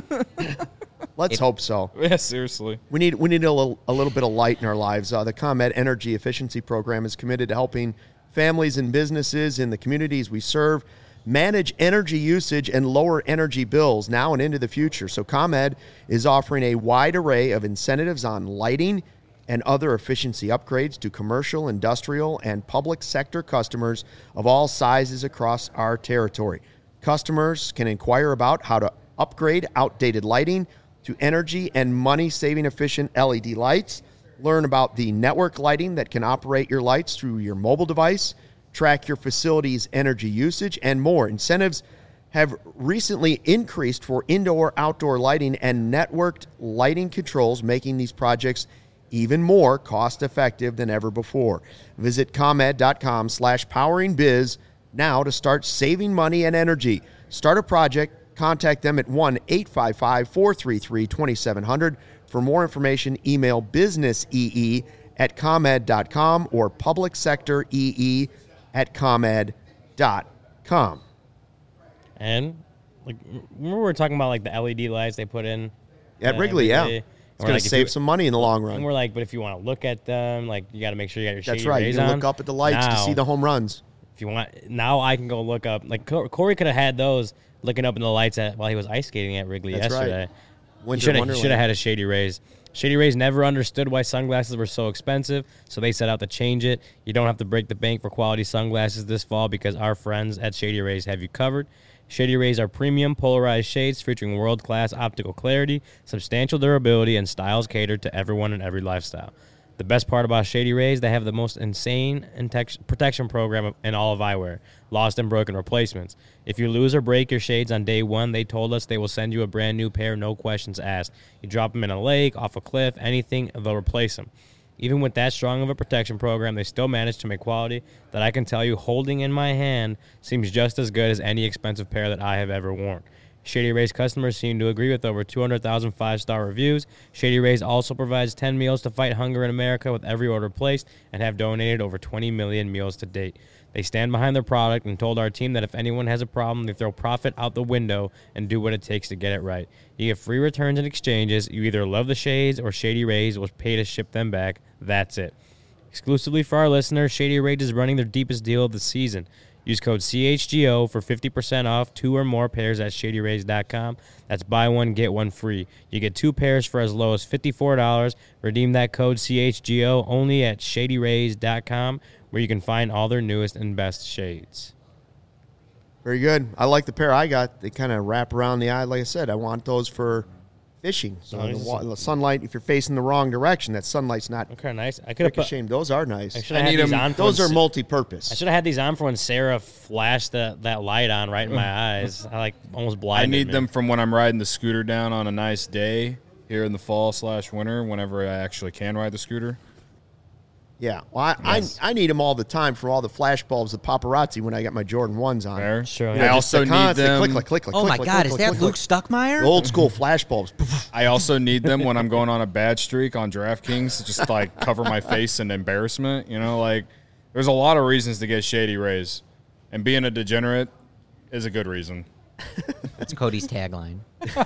Let's hope so. Yeah, seriously. We need we need a little, a little bit of light in our lives. Uh, the ComEd Energy Efficiency Program is committed to helping families and businesses in the communities we serve manage energy usage and lower energy bills now and into the future. So ComEd is offering a wide array of incentives on lighting and other efficiency upgrades to commercial, industrial, and public sector customers of all sizes across our territory. Customers can inquire about how to upgrade outdated lighting to energy and money-saving efficient L E D lights. Learn about the network lighting that can operate your lights through your mobile device, track your facility's energy usage, and more. Incentives have recently increased for indoor-outdoor lighting and networked lighting controls, making these projects even more cost-effective than ever before. Visit ComEd.com slash poweringbiz now to start saving money and energy. Start a project. Contact them at one eight five five, four three three, two seven zero zero. For more information, email businessee at comed dot com or publicsectoree at comed dot com. And like, remember we were talking about like the L E D lights they put in At uh, Wrigley, yeah. every day? It's And we're going like, to if save you- some money in the long And run. we're like, but if you want to look at them, like you got to make sure you got your shady That's right. You rays can on. look up at the lights to Now, see the home runs. If you want, now I can go look up. Like Cor- Corey could have had those looking up in the lights at while he was ice skating at Wrigley That's right. yesterday. Winter Should have Wonderland. should have had a Shady Rays. Shady Rays never understood why sunglasses were so expensive, so they set out to change it. You don't have to break the bank for quality sunglasses this fall because our friends at Shady Rays have you covered. Shady Rays are premium polarized shades featuring world-class optical clarity, substantial durability, and styles catered to everyone and every lifestyle. The best part about Shady Rays, they have the most insane intex- protection program in all of eyewear, lost and broken replacements. If you lose or break your shades on day one, they told us they will send you a brand new pair, no questions asked. You drop them in a lake, off a cliff, anything, they'll replace them. Even with that strong of a protection program, they still manage to make quality that I can tell you holding in my hand seems just as good as any expensive pair that I have ever worn. Shady Rays customers seem to agree with over two hundred thousand five-star reviews. Shady Rays also provides ten meals to fight hunger in America with every order placed and have donated over twenty million meals to date. They stand behind their product and told our team that if anyone has a problem, they throw profit out the window and do what it takes to get it right. You get free returns and exchanges. You either love the shades or Shady Rays will pay to ship them back. That's it. Exclusively for our listeners, Shady Rays is running their deepest deal of the season. Use code C H G O for fifty percent off two or more pairs at shady rays dot com. That's buy one, get one free. You get two pairs for as low as fifty-four dollars. Redeem that code C H G O only at shady rays dot com, where you can find all their newest and best shades. Very good. I like the pair I got. They kind of wrap around the eye. Like I said, I want those for fishing. So Oh, the, this is wa- a- the sunlight, if you're facing the wrong direction, that sunlight's not Okay, nice. I could have put. ricocheting. Those are nice. I should have I had need these 'em- on. For Those when are Sa- multi-purpose. I should have had these on for when Sarah flashed that that light on right in my eyes. I like almost I blinded need me. them from when I'm riding the scooter down on a nice day here in the fall slash winter, whenever I actually can ride the scooter. Yeah, well, I, Yes. I I need them all the time for all the flash bulbs of paparazzi when I got my Jordan ones on. Fair. Sure. You Yeah, know, I just also the need constant them. Click, click, click, click, Oh my click, God, click, is click, that click, Luke click. Stuckmeyer? The old school flash bulbs. I also need them when I'm going on a bad streak on DraftKings to just like cover my face in embarrassment. You know, like there's a lot of reasons to get shady rays, and being a degenerate is a good reason. That's Cody's tagline.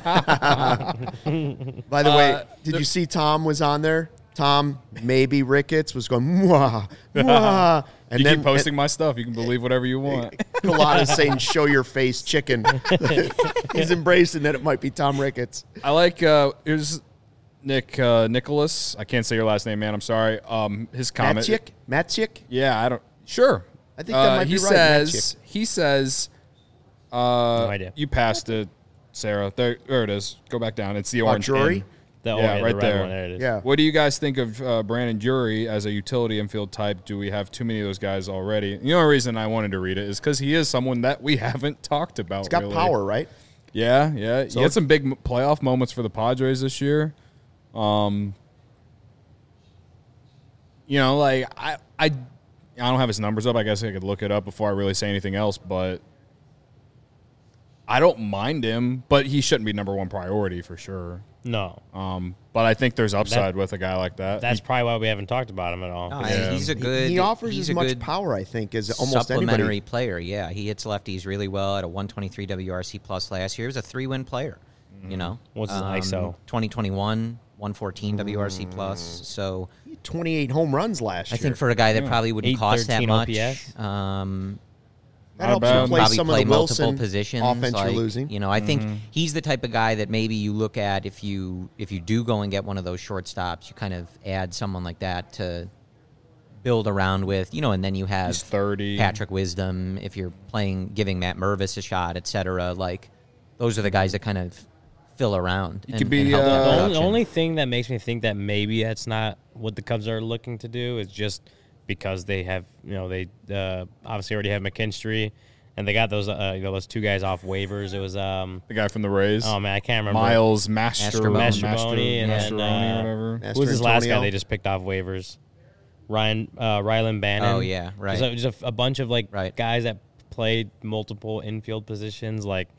By the way, Uh, did the- you see Tom was on there? Tom, maybe Ricketts was going, mwah, mwah. And You then keep posting my stuff. You can believe whatever you want. Colada's saying, show your face, chicken. He's embracing that it might be Tom Ricketts. I like uh here's Nick uh, Nicholas. I can't say your last name, man. I'm sorry. Um, his comment. Matsick? Matsick? Yeah, I don't. Sure. I think that Uh, might he be right, says. He says. Uh, No idea. You passed it, Sarah. There, there it is. Go back down. It's the Oh, orange. Drury? in. The, oh, Yeah, the right red there. One. There it is. Yeah. What do you guys think of uh, Brandon Drury as a utility infield type? Do we have too many of those guys already? The only reason I wanted to read it is because he is someone that we haven't talked about. He's got really. power, right? Yeah, yeah. So- he had some big m- playoff moments for the Padres this year. Um, you know, like I, I, I don't have his numbers up. I guess I could look it up before I really say anything else. But I don't mind him, but he shouldn't be number one priority for sure. No, Um, but I think there's upside with a guy like that. that's probably why we haven't talked about him at all. No, Yeah. He's a He- good. he offers he's as a much good power, I think, as almost supplementary anybody. player. Yeah, he hits lefties really well at a one twenty-three W R C plus last year. He was a three-win player. You know, What's his I S O? twenty twenty-one, one fourteen W R C plus. So He had twenty-eight home runs last I year. think for a guy that probably wouldn't cost that eight thirteen much, O P S. um, that Not helps bad. replace probably some play of the multiple Wilson positions. offense like, you're losing. You know, I think he's the type of guy that maybe you look at if you if you do go and get one of those shortstops, you kind of add someone like that to build around with, you know, and then you have He's thirty. Patrick Wisdom if you're playing, giving Matt Mervis a shot, et cetera. Like those are the guys that kind of fill around. He and, could be, and help uh, that The only, production. only thing that makes me think that maybe that's not what the Cubs are looking to do is just because they have, you know, they uh, obviously already have McKinstry, and they got those, uh, you know, those two guys off waivers. It was, um, The guy from the Rays. oh man, I can't remember. Miles Master, Mastrobone. Master, Mastrobone and then, Mastroni or uh, whatever. Master Who was this last guy Antonio. they just picked off waivers? Ryan, uh, Rylan Bannon. Oh, yeah, right. Just, a, just a, a bunch of like Right. guys that played multiple infield positions. Like,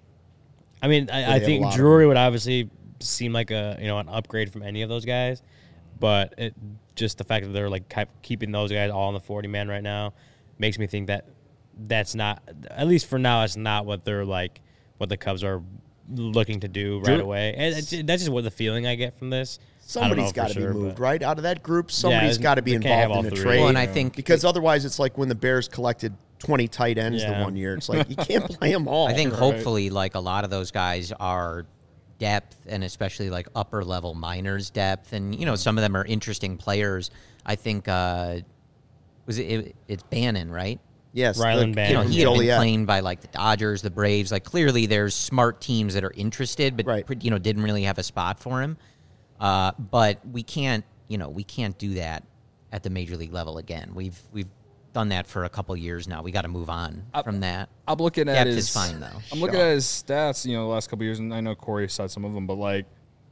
I mean, I, I have a think lot of Drury would obviously seem like a you know an upgrade from any of those guys, but it, just the fact that they're like keep- keeping those guys all in the forty man right now makes me think that that's not, at least for now, it's not what they're like what the Cubs are looking to do right Drew- away. And it's, that's just what the feeling I get from this. Somebody's got to be moved, right? Out of that group, somebody's Yeah, got to be they can't have involved all in a three. trade. Well, and I think because otherwise it's like when the Bears collected twenty tight ends the Yeah. one year. It's like you can't play them all. I think Right. hopefully, like a lot of those guys are depth, and especially like upper level minors depth, and you know some of them are interesting players. I think uh, was it, it it's Bannon, right? yes, Rylan the- Bannon. You know, he had been Joliet. claimed by like the Dodgers, the Braves. Like clearly, there's smart teams that are interested, but Right. you know didn't really have a spot for him. Uh, but we can't, you know, we can't do that at the major league level again. We've we've done that for a couple years now. We got to move on from that. I'm looking at Depth his. is fine, though. I'm looking at his stats. You know, the last couple of years, and I know Corey said some of them, but like,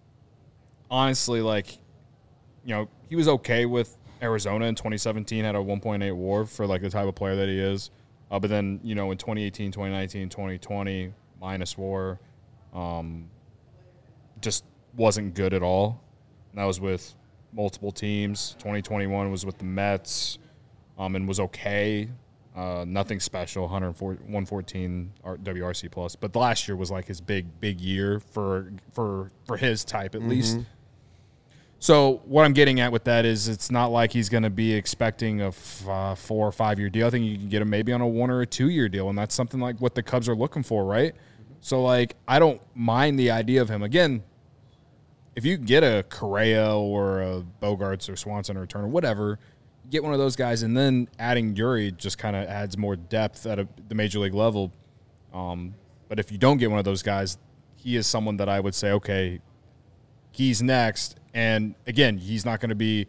honestly, like, you know, he was okay with Arizona in twenty seventeen. Had a one point eight WAR for like the type of player that he is. Uh, but then you know, in twenty eighteen, twenty nineteen, twenty twenty, minus WAR, um, just wasn't good at all. And that was with multiple teams. twenty twenty-one was with the Mets. Um, and was okay, uh, nothing special, one fourteen W R C plus. But the last year was like his big, big year for for for his type at least. So what I'm getting at with that is it's not like he's going to be expecting a f- uh, four or five year deal. I think you can get him maybe on a one or a two year deal, and that's something like what the Cubs are looking for, right? So like I don't mind the idea of him again. If you get a Correa or a Bogarts or Swanson or Turner, whatever. Get one of those guys, and then adding Drury just kind of adds more depth at a, the major league level. Um, but if you don't get one of those guys, he is someone that I would say, okay, he's next. And again, he's not going to be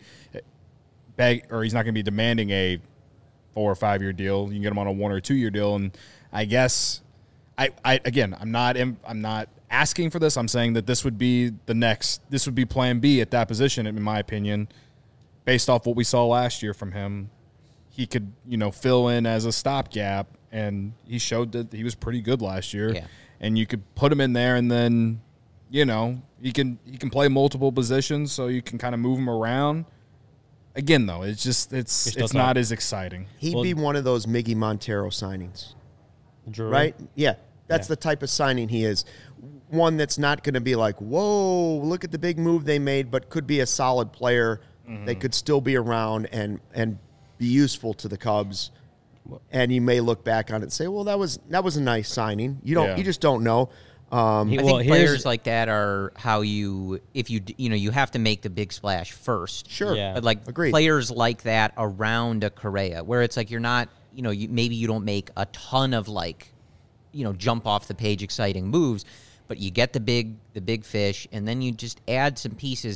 beg, or he's not going to be demanding a four or five year deal. You can get him on a one or two year deal. And I guess I, I again, I'm not, I'm not asking for this. I'm saying that this would be the next, this would be plan B at that position, in my opinion, based off what we saw last year from him. He could, you know, fill in as a stopgap, and he showed that he was pretty good last year. Yeah. And you could put him in there, and then, you know, he can he can play multiple positions, so you can kind of move him around. Again, though, it's just it's You're still it's talking- not as exciting. He'd Well- be one of those Miggy Montero signings, Drury. right? Yeah, that's Yeah. the type of signing he is. One that's not going to be like, whoa, look at the big move they made, but could be a solid player that could still be around and and be useful to the Cubs. And you may look back on it and say, well, that was that was a nice signing. You don't, Yeah. you just don't know. Um, He- I well, think here's- players like that are how you, if you, d- you know, you have to make the big splash first. sure. Yeah. But like Agreed. players like that around a Correa, where it's like you're not, you know, you, maybe you don't make a ton of like, you know, jump off the page exciting moves, but you get the big, the big fish, and then you just add some pieces.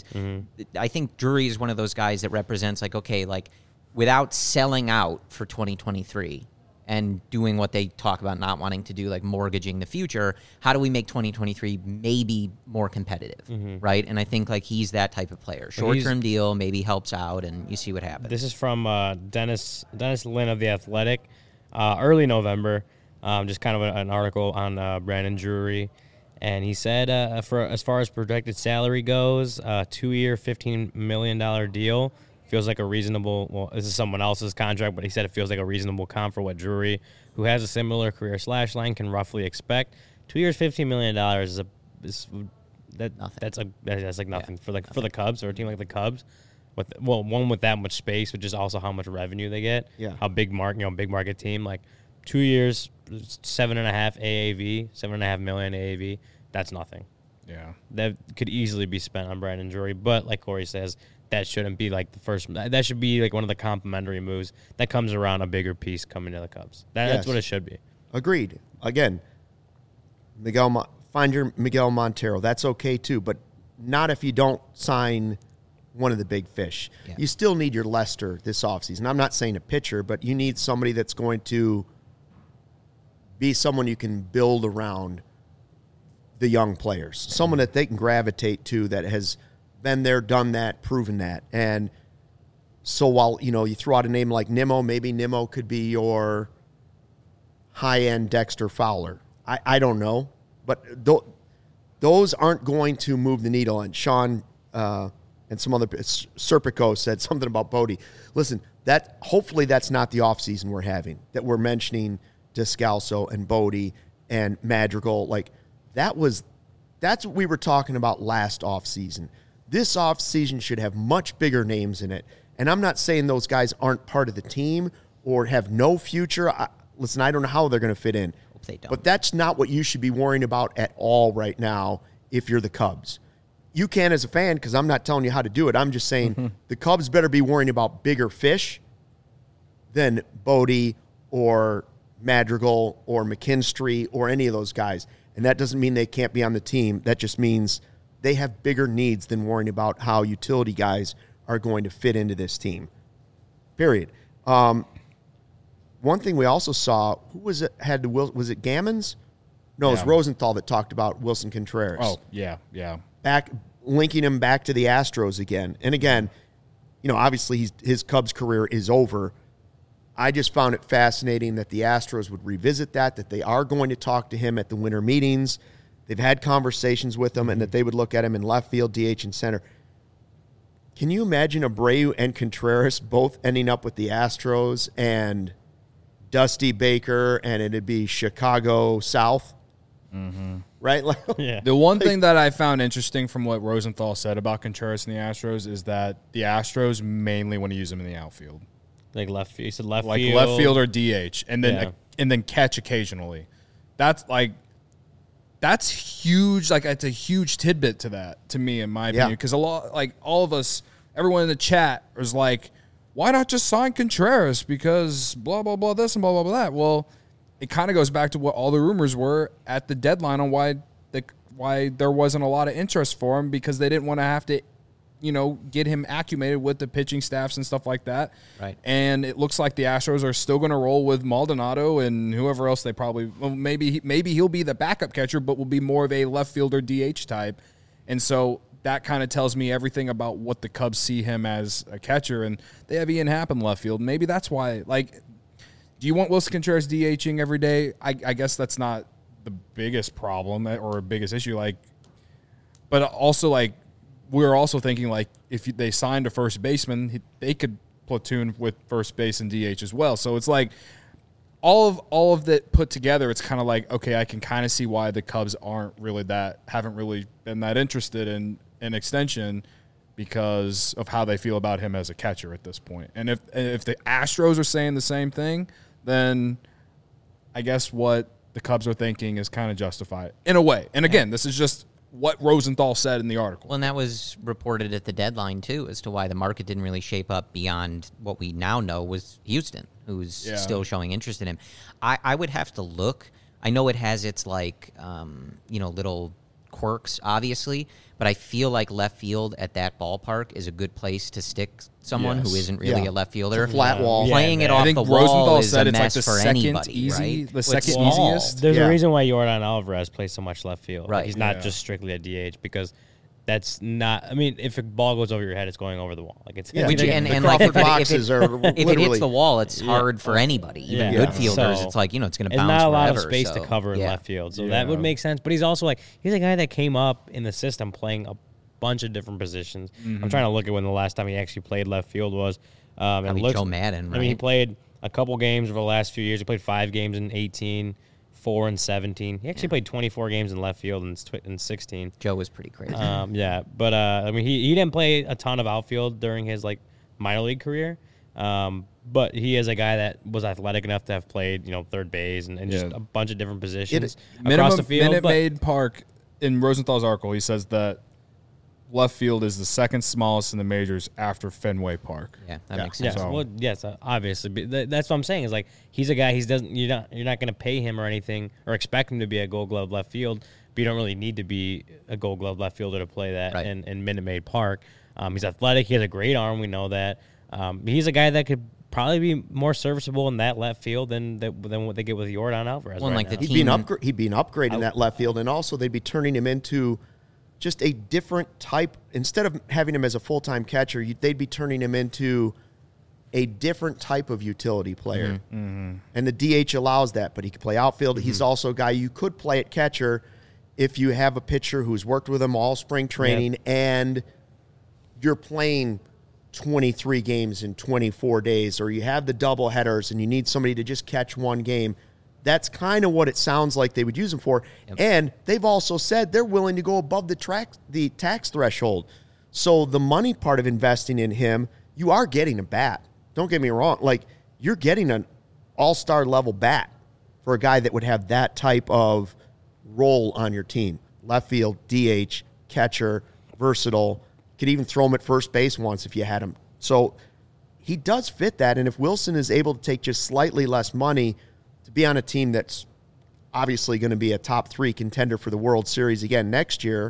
I think Drury is one of those guys that represents like, okay, like without selling out for twenty twenty-three. And doing what they talk about not wanting to do, like mortgaging the future, how do we make twenty twenty-three maybe more competitive, right? And I think like he's that type of player. Short-term deal maybe helps out, and you see what happens. This is from uh, Dennis Dennis Lynn of The Athletic, uh, early November. Um, just kind of a, an article on uh, Brandon Drury, and he said, uh, for as far as projected salary goes, uh, two-year, fifteen million dollar deal feels like a reasonable. Well, this is someone else's contract, but he said it feels like a reasonable comp for what Drury, who has a similar career slash line, can roughly expect. Two years, fifteen million dollars is a is that Nothing. that's a that's like nothing for like for the Cubs or a team like the Cubs. With well, one with that much space, which is also how much revenue they get. Yeah. How big market, you know, big market team. Like two years, seven and a half A A V, seven and a half million A A V. That's nothing. Yeah. That could easily be spent on Brandon Drury. But like Corey says, that shouldn't be like the first. That should be like one of the complimentary moves that comes around a bigger piece coming to the Cubs. That, Yes. That's what it should be. Agreed. Again, Miguel, Mo- find your Miguel Montero. That's okay too, but not if you don't sign one of the big fish. Yeah. You still need your Lester this offseason. I'm not saying a pitcher, but you need somebody that's going to be someone you can build around the young players, someone that they can gravitate to that has been there, done that, proven that. And so while, you know, you throw out a name like Nimmo, maybe Nimmo could be your high-end Dexter Fowler. I, I don't know. But th- those aren't going to move the needle. And Sean uh, and some other, Serpico said something about Bodie. Listen, that hopefully that's not the offseason we're having, that we're mentioning Descalso and Bodie and Madrigal. Like, that was, that's what we were talking about last offseason. This offseason should have much bigger names in it. And I'm not saying those guys aren't part of the team or have no future. I, listen, I don't know how they're going to fit in. Hope they don't. But that's not what you should be worrying about at all right now if you're the Cubs. You can as a fan, because I'm not telling you how to do it. I'm just saying the Cubs better be worrying about bigger fish than Bodie or Madrigal or McKinstry or any of those guys. And that doesn't mean they can't be on the team. That just means they have bigger needs than worrying about how utility guys are going to fit into this team. Period. Um, one thing we also saw, who was it? Had the Wil- was it Gammons? No, it was Yeah. Rosenthal that talked about Wilson Contreras. Oh, yeah, yeah. Back linking him back to the Astros again. And again, you know, obviously he's, his Cubs career is over. I just found it fascinating that the Astros would revisit that, that they are going to talk to him at the winter meetings. They've had conversations with him, and that they would look at him in left field, D H, and center. Can you imagine Abreu and Contreras both ending up with the Astros and Dusty Baker, and it'd be Chicago South? Mm-hmm. Right? Like, Yeah. The one thing that I found interesting from what Rosenthal said about Contreras and the Astros is that the Astros mainly want to use him in the outfield, Like left field. He said left like field. left field or D H, and then Yeah. and then catch occasionally. That's like that's huge. Like it's a huge tidbit to that to me, in my opinion, Yeah. because a lot, like all of us, everyone in the chat was like, "Why not just sign Contreras? Because blah blah blah this and blah blah blah that." Well, it kind of goes back to what all the rumors were at the deadline on why the why there wasn't a lot of interest for him, because they didn't want to have to, you know, get him acclimated with the pitching staffs and stuff like that. Right. And it looks like the Astros are still going to roll with Maldonado and whoever else they probably, well, maybe he, maybe he'll be the backup catcher, but will be more of a left fielder D H type. And so that kind of tells me everything about what the Cubs see him as a catcher. And they have Ian Happ in left field. Maybe that's why, like, do you want Wilson Contreras DHing every day? I, I guess that's not the biggest problem or biggest issue. Like, but also, like, we're also thinking, like, if they signed a first baseman, they could platoon with first base and D H as well. So it's like all of all of that put together, it's kind of like, okay, I can kind of see why the Cubs aren't really that, haven't really been that interested in an extension, because of how they feel about him as a catcher at this point. And if and if the Astros are saying the same thing, then I guess what the Cubs are thinking is kind of justified in a way. And again, this is just what Rosenthal said in the article. Well, and that was reported at the deadline, too, as to why the market didn't really shape up beyond what we now know was Houston, who's Yeah. still showing interest in him. I, I would have to look. I know it has its, like, um, you know, little quirks, obviously, but I feel like left field at that ballpark is a good place to stick someone Yes. who isn't really Yeah. a left fielder. It's a flat wall. Playing Yeah, it man. off I think the wall Rosenthal is said a it's like mess the for second anybody, easy, right? the It's second small. easiest. There's Yeah. a reason why Yordan Alvarez plays so much left field. Like, Right. he's not Yeah. just strictly a D H, because that's not. I mean, if a ball goes over your head, it's going over the wall. Like it's. Yeah. it's Which, The and, the and like if Crawford it, if boxes it, are if it literally- hits the wall, it's Yeah. hard for anybody, even Yeah. good Yeah. fielders. So, it's like, you know, it's going to There's bounce not a lot forever, of space so, to cover in yeah. left field, so Yeah. that would make sense. But he's also like he's a guy that came up in the system playing a bunch of different positions. Mm-hmm. I'm trying to look at when the last time he actually played left field was. Um, and Probably it looks, Joe Madden, I mean, he right? played a couple games over the last few years. He played five games in eighteen, four and seventeen. He actually played twenty-four games in left field in, tw- in sixteen. Joe was pretty crazy. Um, yeah, but uh, I mean, he, he didn't play a ton of outfield during his like minor league career, um, but he is a guy that was athletic enough to have played, you know, third base and, and just Yeah. a bunch of different positions across Minimum the field. Minute but- Maid Park, in Rosenthal's article, he says that left field is the second smallest in the majors after Fenway Park. yeah, that yeah. makes Yeah, sense. So- well, yes, uh, obviously. But th- that's what I'm saying. Is like he's a guy. He's doesn't. You're not. You're not going to pay him or anything or expect him to be a Gold Glove left field. But you don't really need to be a Gold Glove left fielder to play that Right. in, in Minute Maid Park. Um, he's athletic. He has a great arm. We know that. Um, he's a guy that could probably be more serviceable in that left field than that, than what they get with Yordan Alvarez. Well, and right like the now. He'd be an team- upgrade. He'd be an upgrade in that left field, and also they'd be turning him into just a different type. Instead of having him as a full time catcher, you, they'd be turning him into a different type of utility player. And the D H allows that, but he can play outfield. He's also a guy you could play at catcher if you have a pitcher who's worked with him all spring training Yep. and you're playing twenty-three games in twenty-four days, or you have the double headers and you need somebody to just catch one game. That's kind of what it sounds like they would use him for. Yep. And they've also said they're willing to go above the track, the tax threshold. So the money part of investing in him, you are getting a bat. Don't get me wrong. Like, you're getting an all-star level bat for a guy that would have that type of role on your team. Left field, D H, catcher, versatile. Could even throw him at first base once if you had him. So he does fit that. And if Wilson is able to take just slightly less money to be on a team that's obviously going to be a top three contender for the World Series again next year,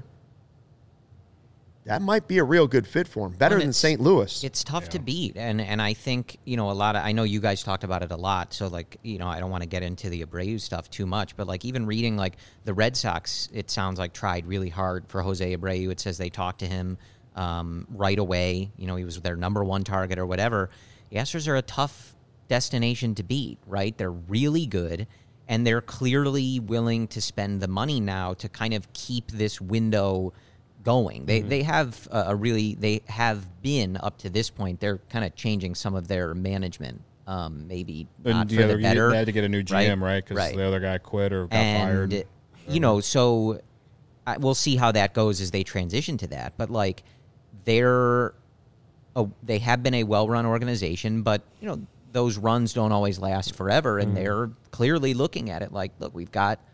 that might be a real good fit for him. Better And than it's- Saint Louis. It's tough to beat, and and I think, you know, a lot of, I know you guys talked about it a lot, so like, you know, I don't want to get into the Abreu stuff too much, but like even reading like the Red Sox, it sounds like tried really hard for Jose Abreu. It says they talked to him um, right away. You know, he was their number one target or whatever. The Astros are a tough destination to beat, right? They're really good, and they're clearly willing to spend the money now to kind of keep this window going. They Mm-hmm. they have a, a really they have been up to this point. They're kind of changing some of their management, um, maybe not And for the the other, better. they had to get a new G M, right? Because Right. the other guy quit or got and fired. you know, so I, we'll see how that goes as they transition to that. But like, they're a, they have been a well-run organization, but you know, those runs don't always last forever, and they're clearly looking at it like, look, we've got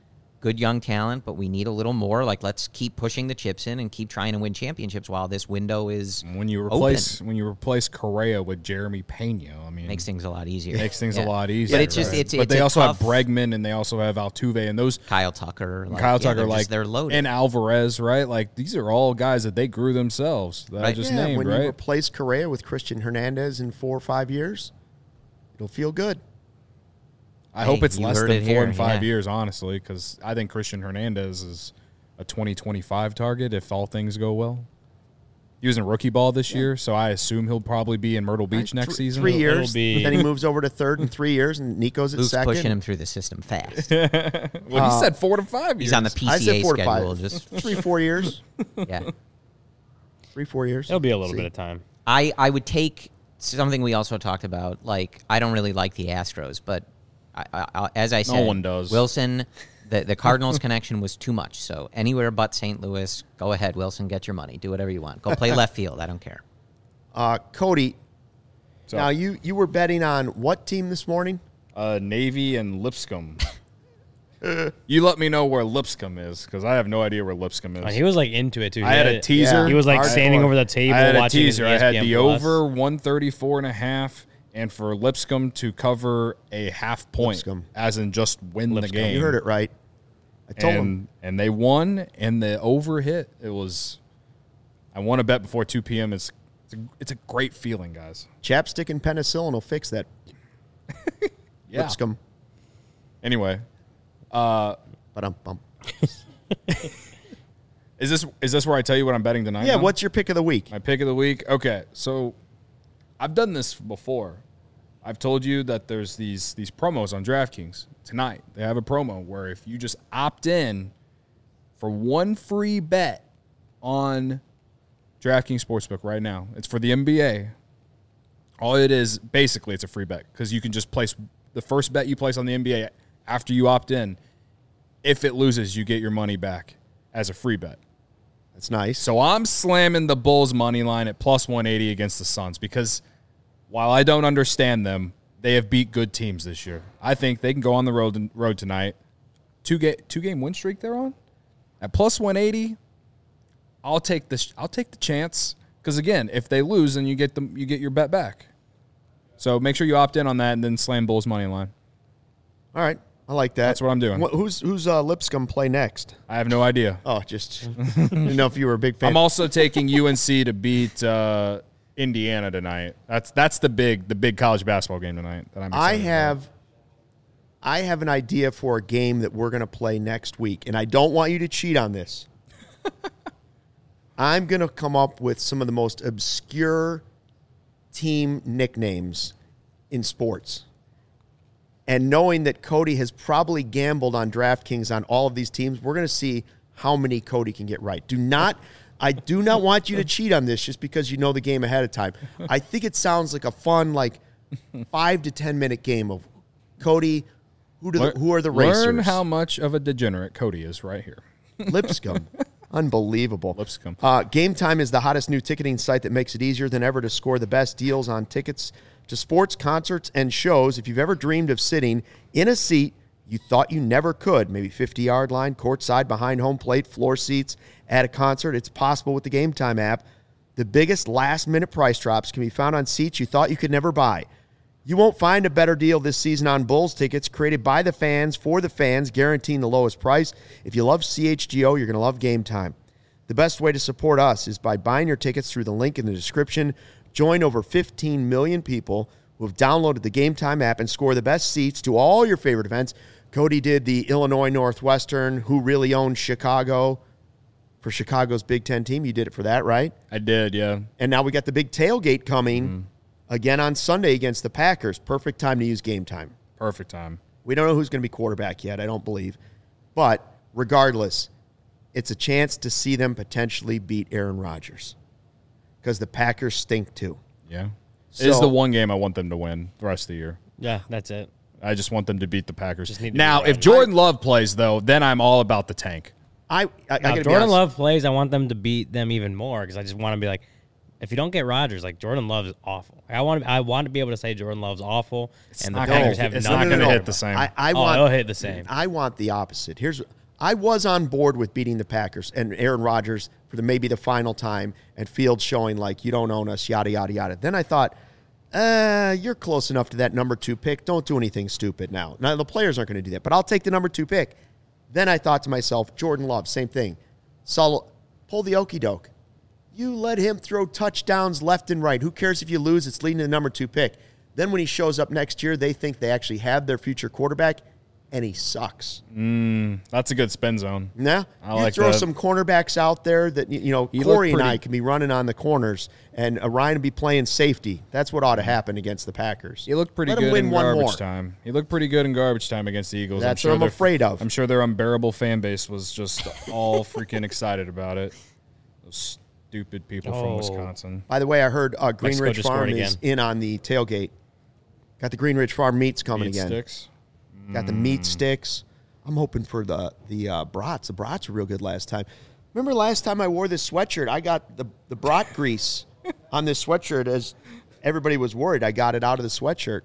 good young talent, but we need a little more. Like, let's keep pushing the chips in and keep trying to win championships while this window is When you open. replace when you replace Correa with Jeremy Pena, I mean, Makes things a lot easier. makes things Yeah. a lot easier. But it's just right? it's but it's they a also tough, have Bregman and they also have Altuve and those Kyle Tucker, like, Kyle yeah, Tucker they're like just, they're loaded. and Alvarez, right? Like these are all guys that they grew themselves that I Right. just Yeah, named, when right? you replace Correa with Christian Hernandez in four or five years, it'll feel good. I hope Hey, it's you less heard than it four here, and five yeah. years, honestly, because I think Christian Hernandez is a twenty twenty-five target if all things go well. He was in rookie ball this year, so I assume he'll probably be in Myrtle Beach next Th- season. Three It'll- years. it'll be- Then he moves over to third in three years, and Nico's at Luke's second. pushing him through the system fast. Well, he said four to five years. He's on the I said P C A four to schedule. five. Just Three, four years. yeah. Three, four years. It'll be a little See. bit of time. I, I would take something we also talked about. Like, I don't really like the Astros, but I, I, I, as I said, one does. Wilson, the, the Cardinals connection was too much. So anywhere but Saint Louis, go ahead, Wilson, get your money. Do whatever you want. Go play left field. I don't care. Uh, Cody, So, now you, you were betting on what team this morning? uh, Navy and Lipscomb. You let me know where Lipscomb is because I have no idea where Lipscomb is. Uh, He was like into it too. He I had a it- teaser. He was like Hardcore. standing over the table I had a watching his teaser. I had E S P N the Plus. over one thirty-four and a half, and for Lipscomb to cover a half point, Lipscomb. as in just win Lipscomb. the game. You heard it right. I told and, him. and they won, and the over hit. It was. I won a bet before two p.m. It's it's a, it's a great feeling, guys. Chapstick and penicillin will fix that. Yeah. Lipscomb. Anyway, uh, But um, bum. is this is this where I tell you what I'm betting tonight? Yeah, now? what's your pick of the week? My pick of the week. Okay, so I've done this before. I've told you that there's these these promos on DraftKings tonight. They have a promo where if you just opt in for one free bet on DraftKings Sportsbook right now, it's for the N B A. All it is, basically, it's a free bet because you can just place the first bet you place on the N B A after you opt in. If it loses, you get your money back as a free bet. That's nice. So I'm slamming the Bulls money line at plus one eighty against the Suns because while I don't understand them, they have beat good teams this year. I think they can go on the road road tonight. Two game two game win streak they're on at plus one eighty. I'll take this. I'll take the chance because again, if they lose, then you get them. You get your bet back. So make sure you opt in on that and then slam Bulls money line. All right. I like that. That's what I'm doing. Wh- who's who's uh, Lipscomb play next? I have no idea. Oh, just didn't know if you were a big fan. I'm also taking U N C to beat uh, Indiana tonight. That's that's the big the big college basketball game tonight. That I'm. I excited have I have an idea for a game that we're going to play next week, and I don't want you to cheat on this. I'm going to come up with some of the most obscure team nicknames in sports. And knowing that Cody has probably gambled on DraftKings on all of these teams, we're going to see how many Cody can get right. Do not, I do not want you to cheat on this just because you know the game ahead of time. I think it sounds like a fun, like five to ten minute game of Cody. Who do the, Learn- who are the racers? Learn how much of a degenerate Cody is right here. Lipscomb. Unbelievable. Lipscomb. Uh, Game Time is the hottest new ticketing site that makes it easier than ever to score the best deals on tickets to sports, concerts, and shows. If you've ever dreamed of sitting in a seat you thought you never could, maybe fifty-yard line, courtside, behind home plate, floor seats at a concert, it's possible with the Game Time app. The biggest last-minute price drops can be found on seats you thought you could never buy. You won't find a better deal this season on Bulls tickets created by the fans for the fans, guaranteeing the lowest price. If you love C H G O, you're going to love Game Time. The best way to support us is by buying your tickets through the link in the description. Join over fifteen million people who have downloaded the Game Time app and score the best seats to all your favorite events. Cody did the Illinois Northwestern, who really owns Chicago, for Chicago's Big Ten team. You did it for that, right? I did, yeah. And now we got the big tailgate coming mm. again on Sunday against the Packers. Perfect time to use Game Time. Perfect time. We don't know who's going to be quarterback yet, I don't believe. But regardless, it's a chance to see them potentially beat Aaron Rodgers because the Packers stink too. Yeah. So, it is the one game I want them to win the rest of the year. Yeah, that's it. I just want them to beat the Packers. Just need to now, be if right. Jordan Love plays, though, then I'm all about the tank. I, I, I Now, gotta if be Jordan honest. Love plays, I want them to beat them even more because I just want to be like, if you don't get Rodgers, like Jordan Love is awful. I want, I want to be able to say Jordan Love's awful, and the not Packers gonna- have it's nothing. not gonna no, no. hit the same. I, I Oh, want, it'll hit the same. I want the opposite. Here's, I was on board with beating the Packers and Aaron Rodgers for the maybe the final time and Fields showing like you don't own us, yada, yada, yada. Then I thought, uh, you're close enough to that number two pick. Don't do anything stupid now. Now, the players aren't going to do that, but I'll take the number two pick. Then I thought to myself, Jordan Love, same thing. Sol- pull the okie doke. You let him throw touchdowns left and right. Who cares if you lose? It's leading to the number two pick. Then when he shows up next year, they think they actually have their future quarterback, and he sucks. Mm, that's a good spin zone. Yeah, I you like throw that. some cornerbacks out there that, you know, He Corey looked and I pretty- can be running on the corners, and uh, Ryan will be playing safety. That's what ought to happen against the Packers. He looked pretty Let him good win in one garbage more. time. He looked pretty good in garbage time against the Eagles. That's I'm sure what I'm their- afraid of. I'm sure their unbearable fan base was just all freaking excited about it. Those stupid people from Oh. Wisconsin. By the way, I heard uh, Mexico Greenridge just Farm scored is again. in on the tailgate. Got the Greenridge Farm meats coming Meat again. sticks. Got the meat sticks. I'm hoping for the the uh, brats. The brats were real good last time. Remember last time I wore this sweatshirt? I got the the brat grease on this sweatshirt as everybody was worried. I got it out of the sweatshirt.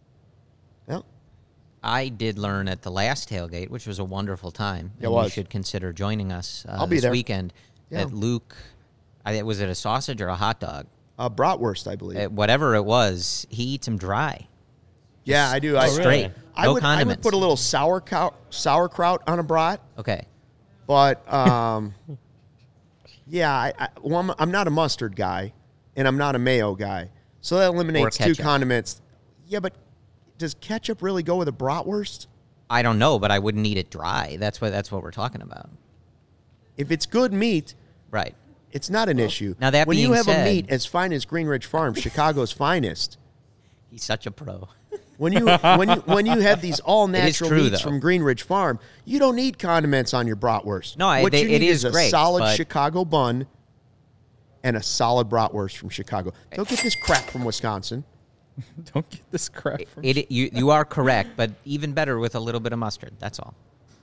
Yeah. I did learn at the last tailgate, which was a wonderful time. It and was. You should consider joining us uh, I'll be this there. weekend. Yeah. That Luke, I, was it a sausage or a hot dog? Uh, bratwurst, I believe. Uh, whatever it was, he eats them dry. yeah, I do. I, Oh, really? Straight. I No would I would condiments. put a little sauerkraut sauerkraut on a brat, Okay. but um, yeah, I, I, well, I'm, I'm not a mustard guy, and I'm not a mayo guy, so that eliminates two ketchup. condiments. Yeah, but does ketchup really go with a bratwurst? I don't know, but I wouldn't eat it dry. That's what that's what we're talking about. If it's good meat, Right. it's not an issue. Now, that when you being have a said- meat as fine as Greenridge Farm, Chicago's finest, He's such a pro. when you when you when you have these all is natural true, meats though. from Greenridge Farm, you don't need condiments on your bratwurst. No, I- what they- you it need is is a great, solid but- Chicago bun and a solid bratwurst from Chicago. Don't get this crap from Wisconsin. Don't get this crap from It, you you are correct, but even better with a little bit of mustard. That's all.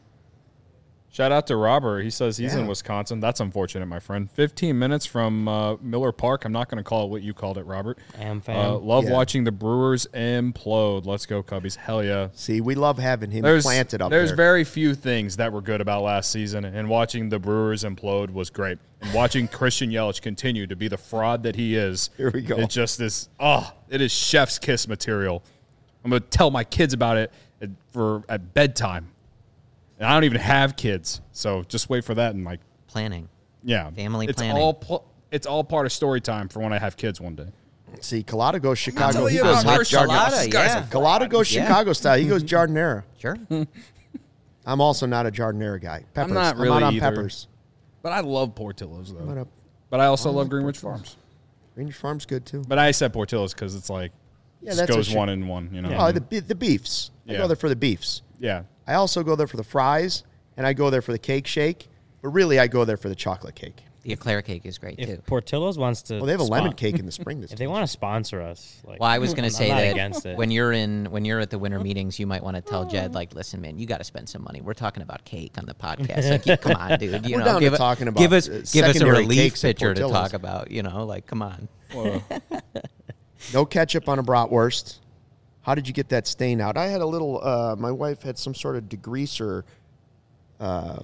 Shout out to Robert. He says he's Yeah. in Wisconsin. That's unfortunate, my friend. fifteen minutes from uh, Miller Park. I'm not going to call it what you called it, Robert. Am fam. Uh, love Yeah. watching the Brewers implode. Let's go, Cubbies. Hell yeah. See, we love having him There's, planted up there's there. very few things that were good about last season, and watching the Brewers implode was great. And watching Christian Yelich continue to be the fraud that he is. Here we go. It just is, oh, it is chef's kiss material. I'm going to tell my kids about it at, for at bedtime. And I don't even have kids, so just wait for that and like, Planning. yeah, Family it's planning. all pl- it's all part of story time for when I have kids one day. See, Collado goes Chicago. telling He you goes about hot Christian Jardin- Colada, This guy's yeah. a Collado goes Yeah. Chicago style. He goes Jardinera. Sure. I'm also not a Jardinera guy. Peppers. not I'm really out on either. peppers. But I love Portillo's though. But, uh, But I also love Greenwich Farms. Greenwich Farm's good too. But I said Portillo's because it's like Yeah, just that's goes what you- one and one. You know. Oh, the be- the beefs. I Yeah. go there for the beefs. yeah. I also go there for the fries, and I go there for the cake shake. But really, I go there for the chocolate cake. The eclair cake is great too. If Portillo's wants to, Well, they have a spon- lemon cake in the spring. This If they want to sponsor us, like, Well, I was going I'm to say not that against it. when you're in when you're at the winter meetings, you might want to tell Jed, like, listen, man, you got to spend some money. We're talking about cake on the podcast. Like, yeah, come on, dude. You We're know, down to give, a- talking about, give us uh, give us a secondary relief cakes at pitcher to Portillo's. talk about. You know, like, come on. Well, No ketchup on a bratwurst. How did you get that stain out? I had a little. Uh, my wife had some sort of degreaser. Uh,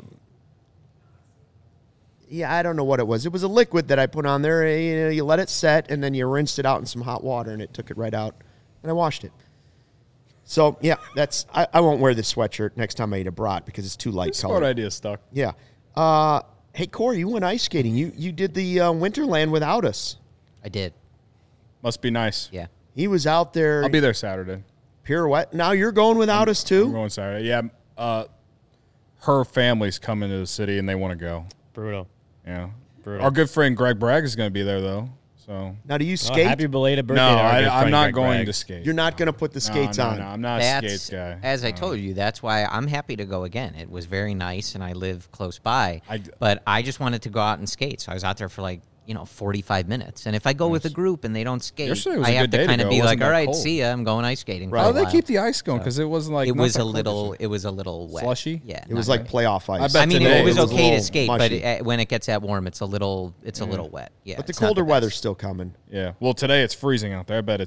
yeah, I don't know what it was. It was a liquid that I put on there. You know, you let it set, and then you rinsed it out in some hot water, and it took it right out. And I washed it. So yeah, that's. I, I won't wear this sweatshirt next time I eat a brat because it's too light smart color. idea stuck. Yeah. Uh, hey Corey, you went ice skating. You you did the uh, Winterland without us. I did. Must be nice. Yeah. He was out there. I'll be there Saturday. Pirouette. Now you're going without us too. I'm going Saturday. Yeah. Uh, her family's coming to the city and they want to go. brutal. Yeah. Brutal. Our good friend Greg Bragg is going to be there though. So Now, do you Well, skate? happy belated birthday. no, to our I, good I'm friend not Greg going Bragg. to skate. You're not going to put the No, skates no, on. No, I'm not a That's skate guy. as I No. told you. That's why I'm happy to go again. It was very nice, and I live close by. I- but I just wanted to go out and skate, so I was out there for like you know forty-five minutes. And if I go with a group and they don't skate, Yesterday was I a have good day to to kind of go. be It wasn't like, all that right, cold." see ya. I'm going ice skating. For How a do they while." keep the ice going? Because it wasn't like It not was that a cold little. yesterday. It was a little wet. Slushy? Yeah. It was not like great. playoff ice. I bet I mean, today it was it was a okay to little skate, mushy. but uh, when it gets that warm, it's a little. It's a little wet. Yeah. But the it's not colder best. weather's still coming. Yeah. Well, today it's freezing out there. I bet it's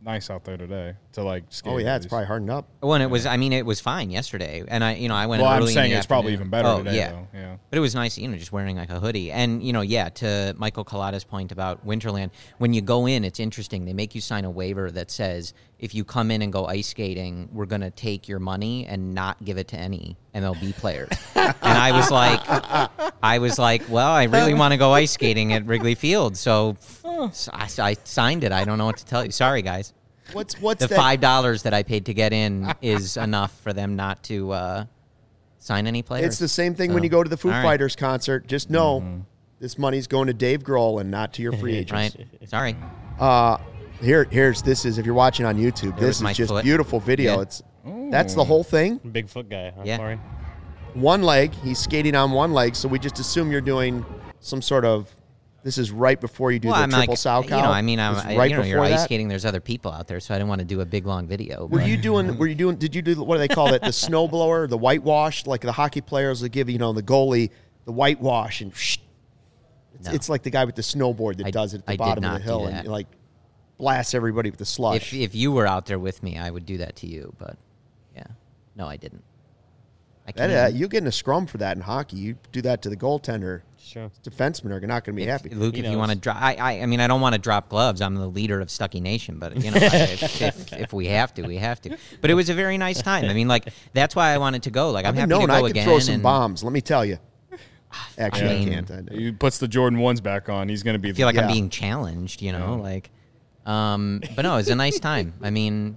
nice out there today to like skate. Oh yeah, at it's least. probably hardened up. Well, and it was. I mean, it was fine yesterday, and I, you know, I went. Well, I'm early in saying the it's probably afternoon. even better oh, today, yeah. though. Yeah. But it was nice, you know, just wearing like a hoodie, and you know, yeah. To Michael Collada's point about Winterland, when you go in, it's interesting. They make you sign a waiver that says if you come in and go ice skating, we're going to take your money and not give it to any M L B players. And I was like, I was like, well, I really want to go ice skating at Wrigley Field, so, so I, I signed it. I don't know what to tell you. Sorry, guys. What's what's The that? five dollars that I paid to get in is enough for them not to uh, sign any players. It's the same thing So, when you go to the Foo all right. Fighters concert. Just know this money's going to Dave Grohl and not to your free agents. Right? Sorry. Uh, here, here's this is if you're watching on YouTube. There was This my is just foot. beautiful video. Yeah. It's that's the whole thing. Bigfoot guy, huh, Yeah. Corey? One leg. He's skating on one leg, so we just assume you're doing some sort of. This is right before you do Well, the I'm triple like, sow cow. you know, I mean, I'm, It's I, right you know, you're before ice that. skating. There's other people out there, so I didn't want to do a big long video. Were but- you doing? Were you doing? Did you do what do they call it? The snowblower, the whitewash, like the hockey players that give you know the goalie the whitewash and. It's, No. it's like the guy with the snowboard that I- does it at the I did bottom of not the do hill that. and like blasts everybody with the slush. If if you were out there with me, I would do that to you. But yeah, no, I didn't. I that, can't. uh, you get in a scrum for that in hockey. You do that to the goaltender. Sure. Defensemen are not going to be happy. Luke, He if you knows. want to drop, I, I, I mean, I don't want to drop gloves. I'm the leader of Stucky Nation, but you know, if, if, if we have to, we have to. But it was a very nice time. I mean, like that's why I wanted to go. Like I'm I've happy been known to go I could again. throw some and bombs. Let me tell you. Actually, I, I mean- can't. I, He puts the Jordan ones back on. He's going to be. I feel like Yeah. I'm being challenged. You know, Yeah. like, um, but no, it was a nice time. I mean,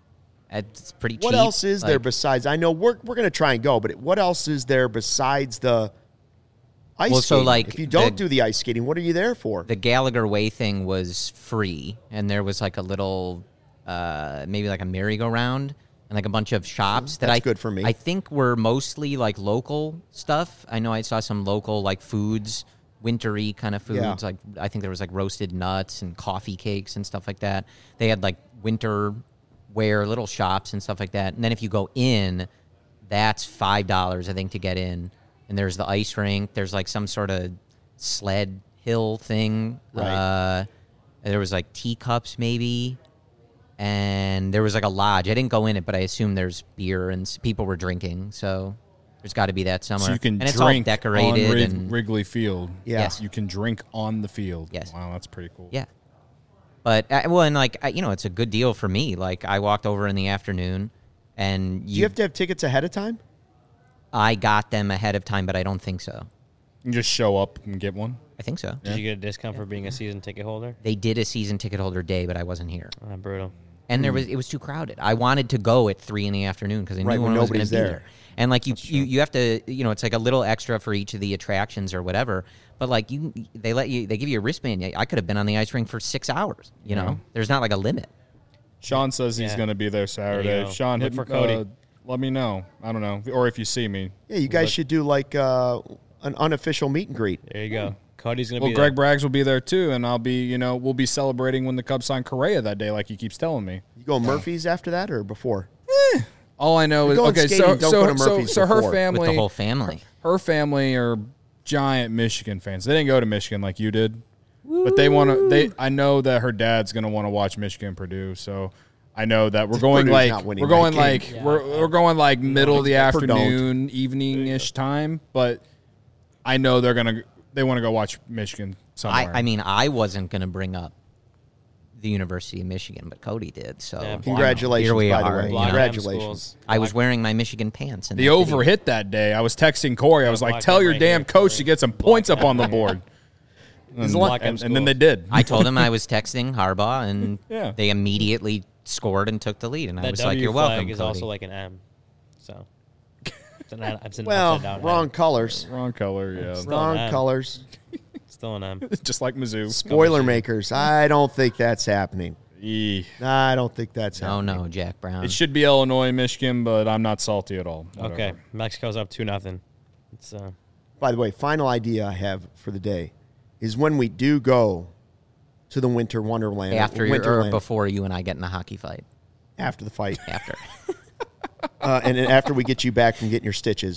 it's pretty cheap. what else is there like- besides? I know we're we're going to try and go, but what else is there besides the ice Well, so, skating? like, if you don't the- do the ice skating, what are you there for? the Gallagher Way thing was free, and there was like a little, uh, maybe like a merry-go-round and like a bunch of shops that That's I good for me. I think were mostly like local stuff. I know I saw some local like foods, wintry kind of foods. Yeah. Like I think there was like roasted nuts and coffee cakes and stuff like that. They had like winter wear little shops and stuff like that. And then if you go in, that's five dollars I think to get in. And there's the ice rink. There's like some sort of sled hill thing. Right. Uh, there was like teacups maybe, and there was like a lodge. I didn't go in it, but I assume there's beer and s- people were drinking. So there's got to be that somewhere. So you can and it's drink all decorated on Rig- and Wrigley Field. Yeah. Yes. You can drink on the field. Yes. Wow, that's pretty cool. yeah. But uh, well, and like I, you know, it's a good deal for me. Like I walked over in the afternoon, and do you have to have tickets ahead of time? I got them ahead of time, but I don't think so. You can just show up and get one. I think so. Did you get a discount for being a season ticket holder? They did a season ticket holder day, but I wasn't here. Ah, brutal. And there was it was too crowded. I wanted to go at three in the afternoon because I knew Right, when when I was going to nobody's be there. there. And like you, you, you have to, you know, it's like a little extra for each of the attractions or whatever. But like you, they let you, they give you a wristband. I could have been on the ice rink for six hours. You know, Yeah. there's not like a limit. Sean says he's Yeah. going to be there Saturday. go. Sean, Look hit for for Cody. Uh, let me know. I don't know, or if you see me. Yeah, you guys But- should do like uh, an unofficial meet and greet. There you go. Cody's gonna Well, be Greg there. Braggs will be there too, and I'll be, you know, we'll be celebrating when the Cubs sign Correa that day, like he keeps telling me. You go Murphy's after that or before? All I know You're is going okay. skating, So don't so go to so, Murphy's so her before. With the With family, the whole family. her family are giant Michigan fans. They didn't go to Michigan like you did, but they want to. They I know that her dad's gonna want to watch Michigan Purdue, so I know that we're going Purdue's like not winning we're going that like game. Yeah. we're we're going like middle of the Purdue don't. afternoon, evening ish time, but I know they're gonna they want to go watch Michigan I, somewhere. I mean, I wasn't going to bring up the University of Michigan, but Cody did. So Yeah, Congratulations, Here we by are, the way. you Block know. Congratulations. schools. I was wearing my Michigan pants. In the that over video. hit that day. I was texting Corey. I was like, Block "Tell them your right damn here, coach Corey. to get some points up on the board." And, Block them and, and then they schools. did. I told him I was texting Harbaugh, and Yeah. they immediately scored and took the lead. And I That was W like, "You're flag welcome." is Cody. also like an M. So. It's an, it's an Well, upside down wrong M. colors. Wrong color, yeah. Still Wrong an M. colors. Still an M. Just like Mizzou. Spoiler makers. I don't think that's happening. Eeh. I don't think that's No, happening. no, Jack Brown. It should be Illinois, Michigan, but I'm not salty at all. Whatever. Okay, Mexico's up two nothing. It's uh, By the way, final idea I have for the day is when we do go to the Winter Wonderland. after your, or Winterland, before you and I get in a hockey fight. after the fight. After. uh, and then after we get you back from getting your stitches.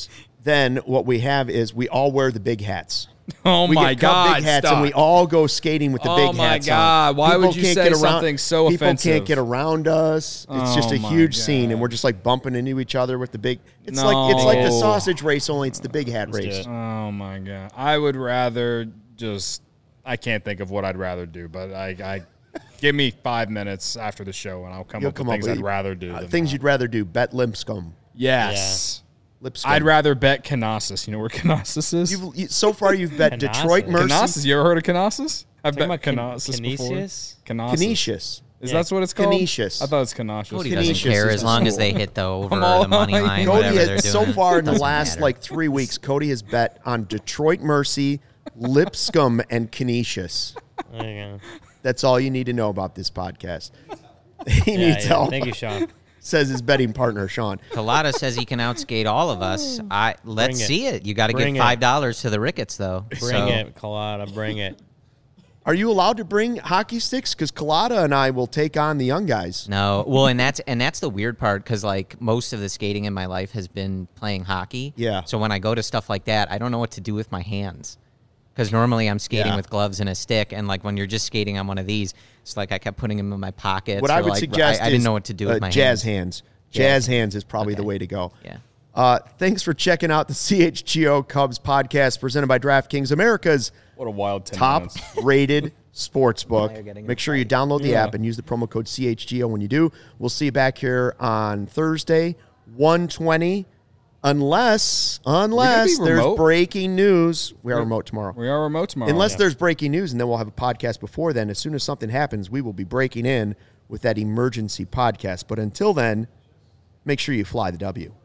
then what we have is we all wear the big hats. Oh we my get Cub God! big hats, stop. and we all go skating with the Oh big my hats God, on. why People would you can't say get around, something so people offensive? can't get around us. It's just Oh a my huge God. scene, and we're just like bumping into each other with the big. It's like it's No. like the sausage race, only it's the big hat Let's do race. it. Oh my god! I would rather just. I can't think of what I'd rather do, but I, I give me five minutes after the show, and I'll come You'll up come with up things with I'd rather do. Uh, than things that. you'd rather do. Bet Lipscomb. Yes. Lipscomb. I'd rather bet Canassus. You know where Canassus is? You've, you, so far, you've bet Canassus. Detroit Mercy. Canassus. You ever heard of Canassus? I've bet Talking about Can- Canassus before. Canisius? Canassus. Canisius. Is Yeah. that what it's called? Canisius. I thought it was Canassus. Cody Canisius doesn't care is as the long as school. they hit the over all or the money like- line, Cody whatever they're has, doing. so far in the Doesn't last matter. like three weeks, Cody has bet on Detroit Mercy, Lipscomb, and Canisius. There you go. That's all you need to know about this podcast. He Yeah, needs yeah. help. Thank you, Sean. Says his betting partner, Sean. Collada says he can outskate all of us. I let's Bring it. see it. You got to Bring give it. five dollars to the Ricketts, though. Bring So- it, Colada. Bring it. Are you allowed to bring hockey sticks? Because Collada and I will take on the young guys. No, well, and that's and that's the weird part because like most of the skating in my life has been playing hockey. Yeah. So when I go to stuff like that, I don't know what to do with my hands because normally I'm skating Yeah. with gloves and a stick, and like when you're just skating on one of these, it's like I kept putting them in my pockets. What or I would like, suggest I, I is didn't know what to do uh, with my jazz hands. hands. Jazz Yeah. hands is probably Okay. the way to go. Yeah. Uh, thanks for checking out the C H G O Cubs podcast presented by DraftKings, America's What a wild ten top minutes. rated sports book. Now you're getting Make sure you download the Yeah. app and use the promo code C H G O when you do. We'll see you back here on Thursday, one twenty, unless unless be there's remote? breaking news. We are remote tomorrow. We are remote tomorrow. Unless there's breaking news, and then we'll have a podcast before then. As soon as something happens, we will be breaking in with that emergency podcast. But until then, make sure you fly the W.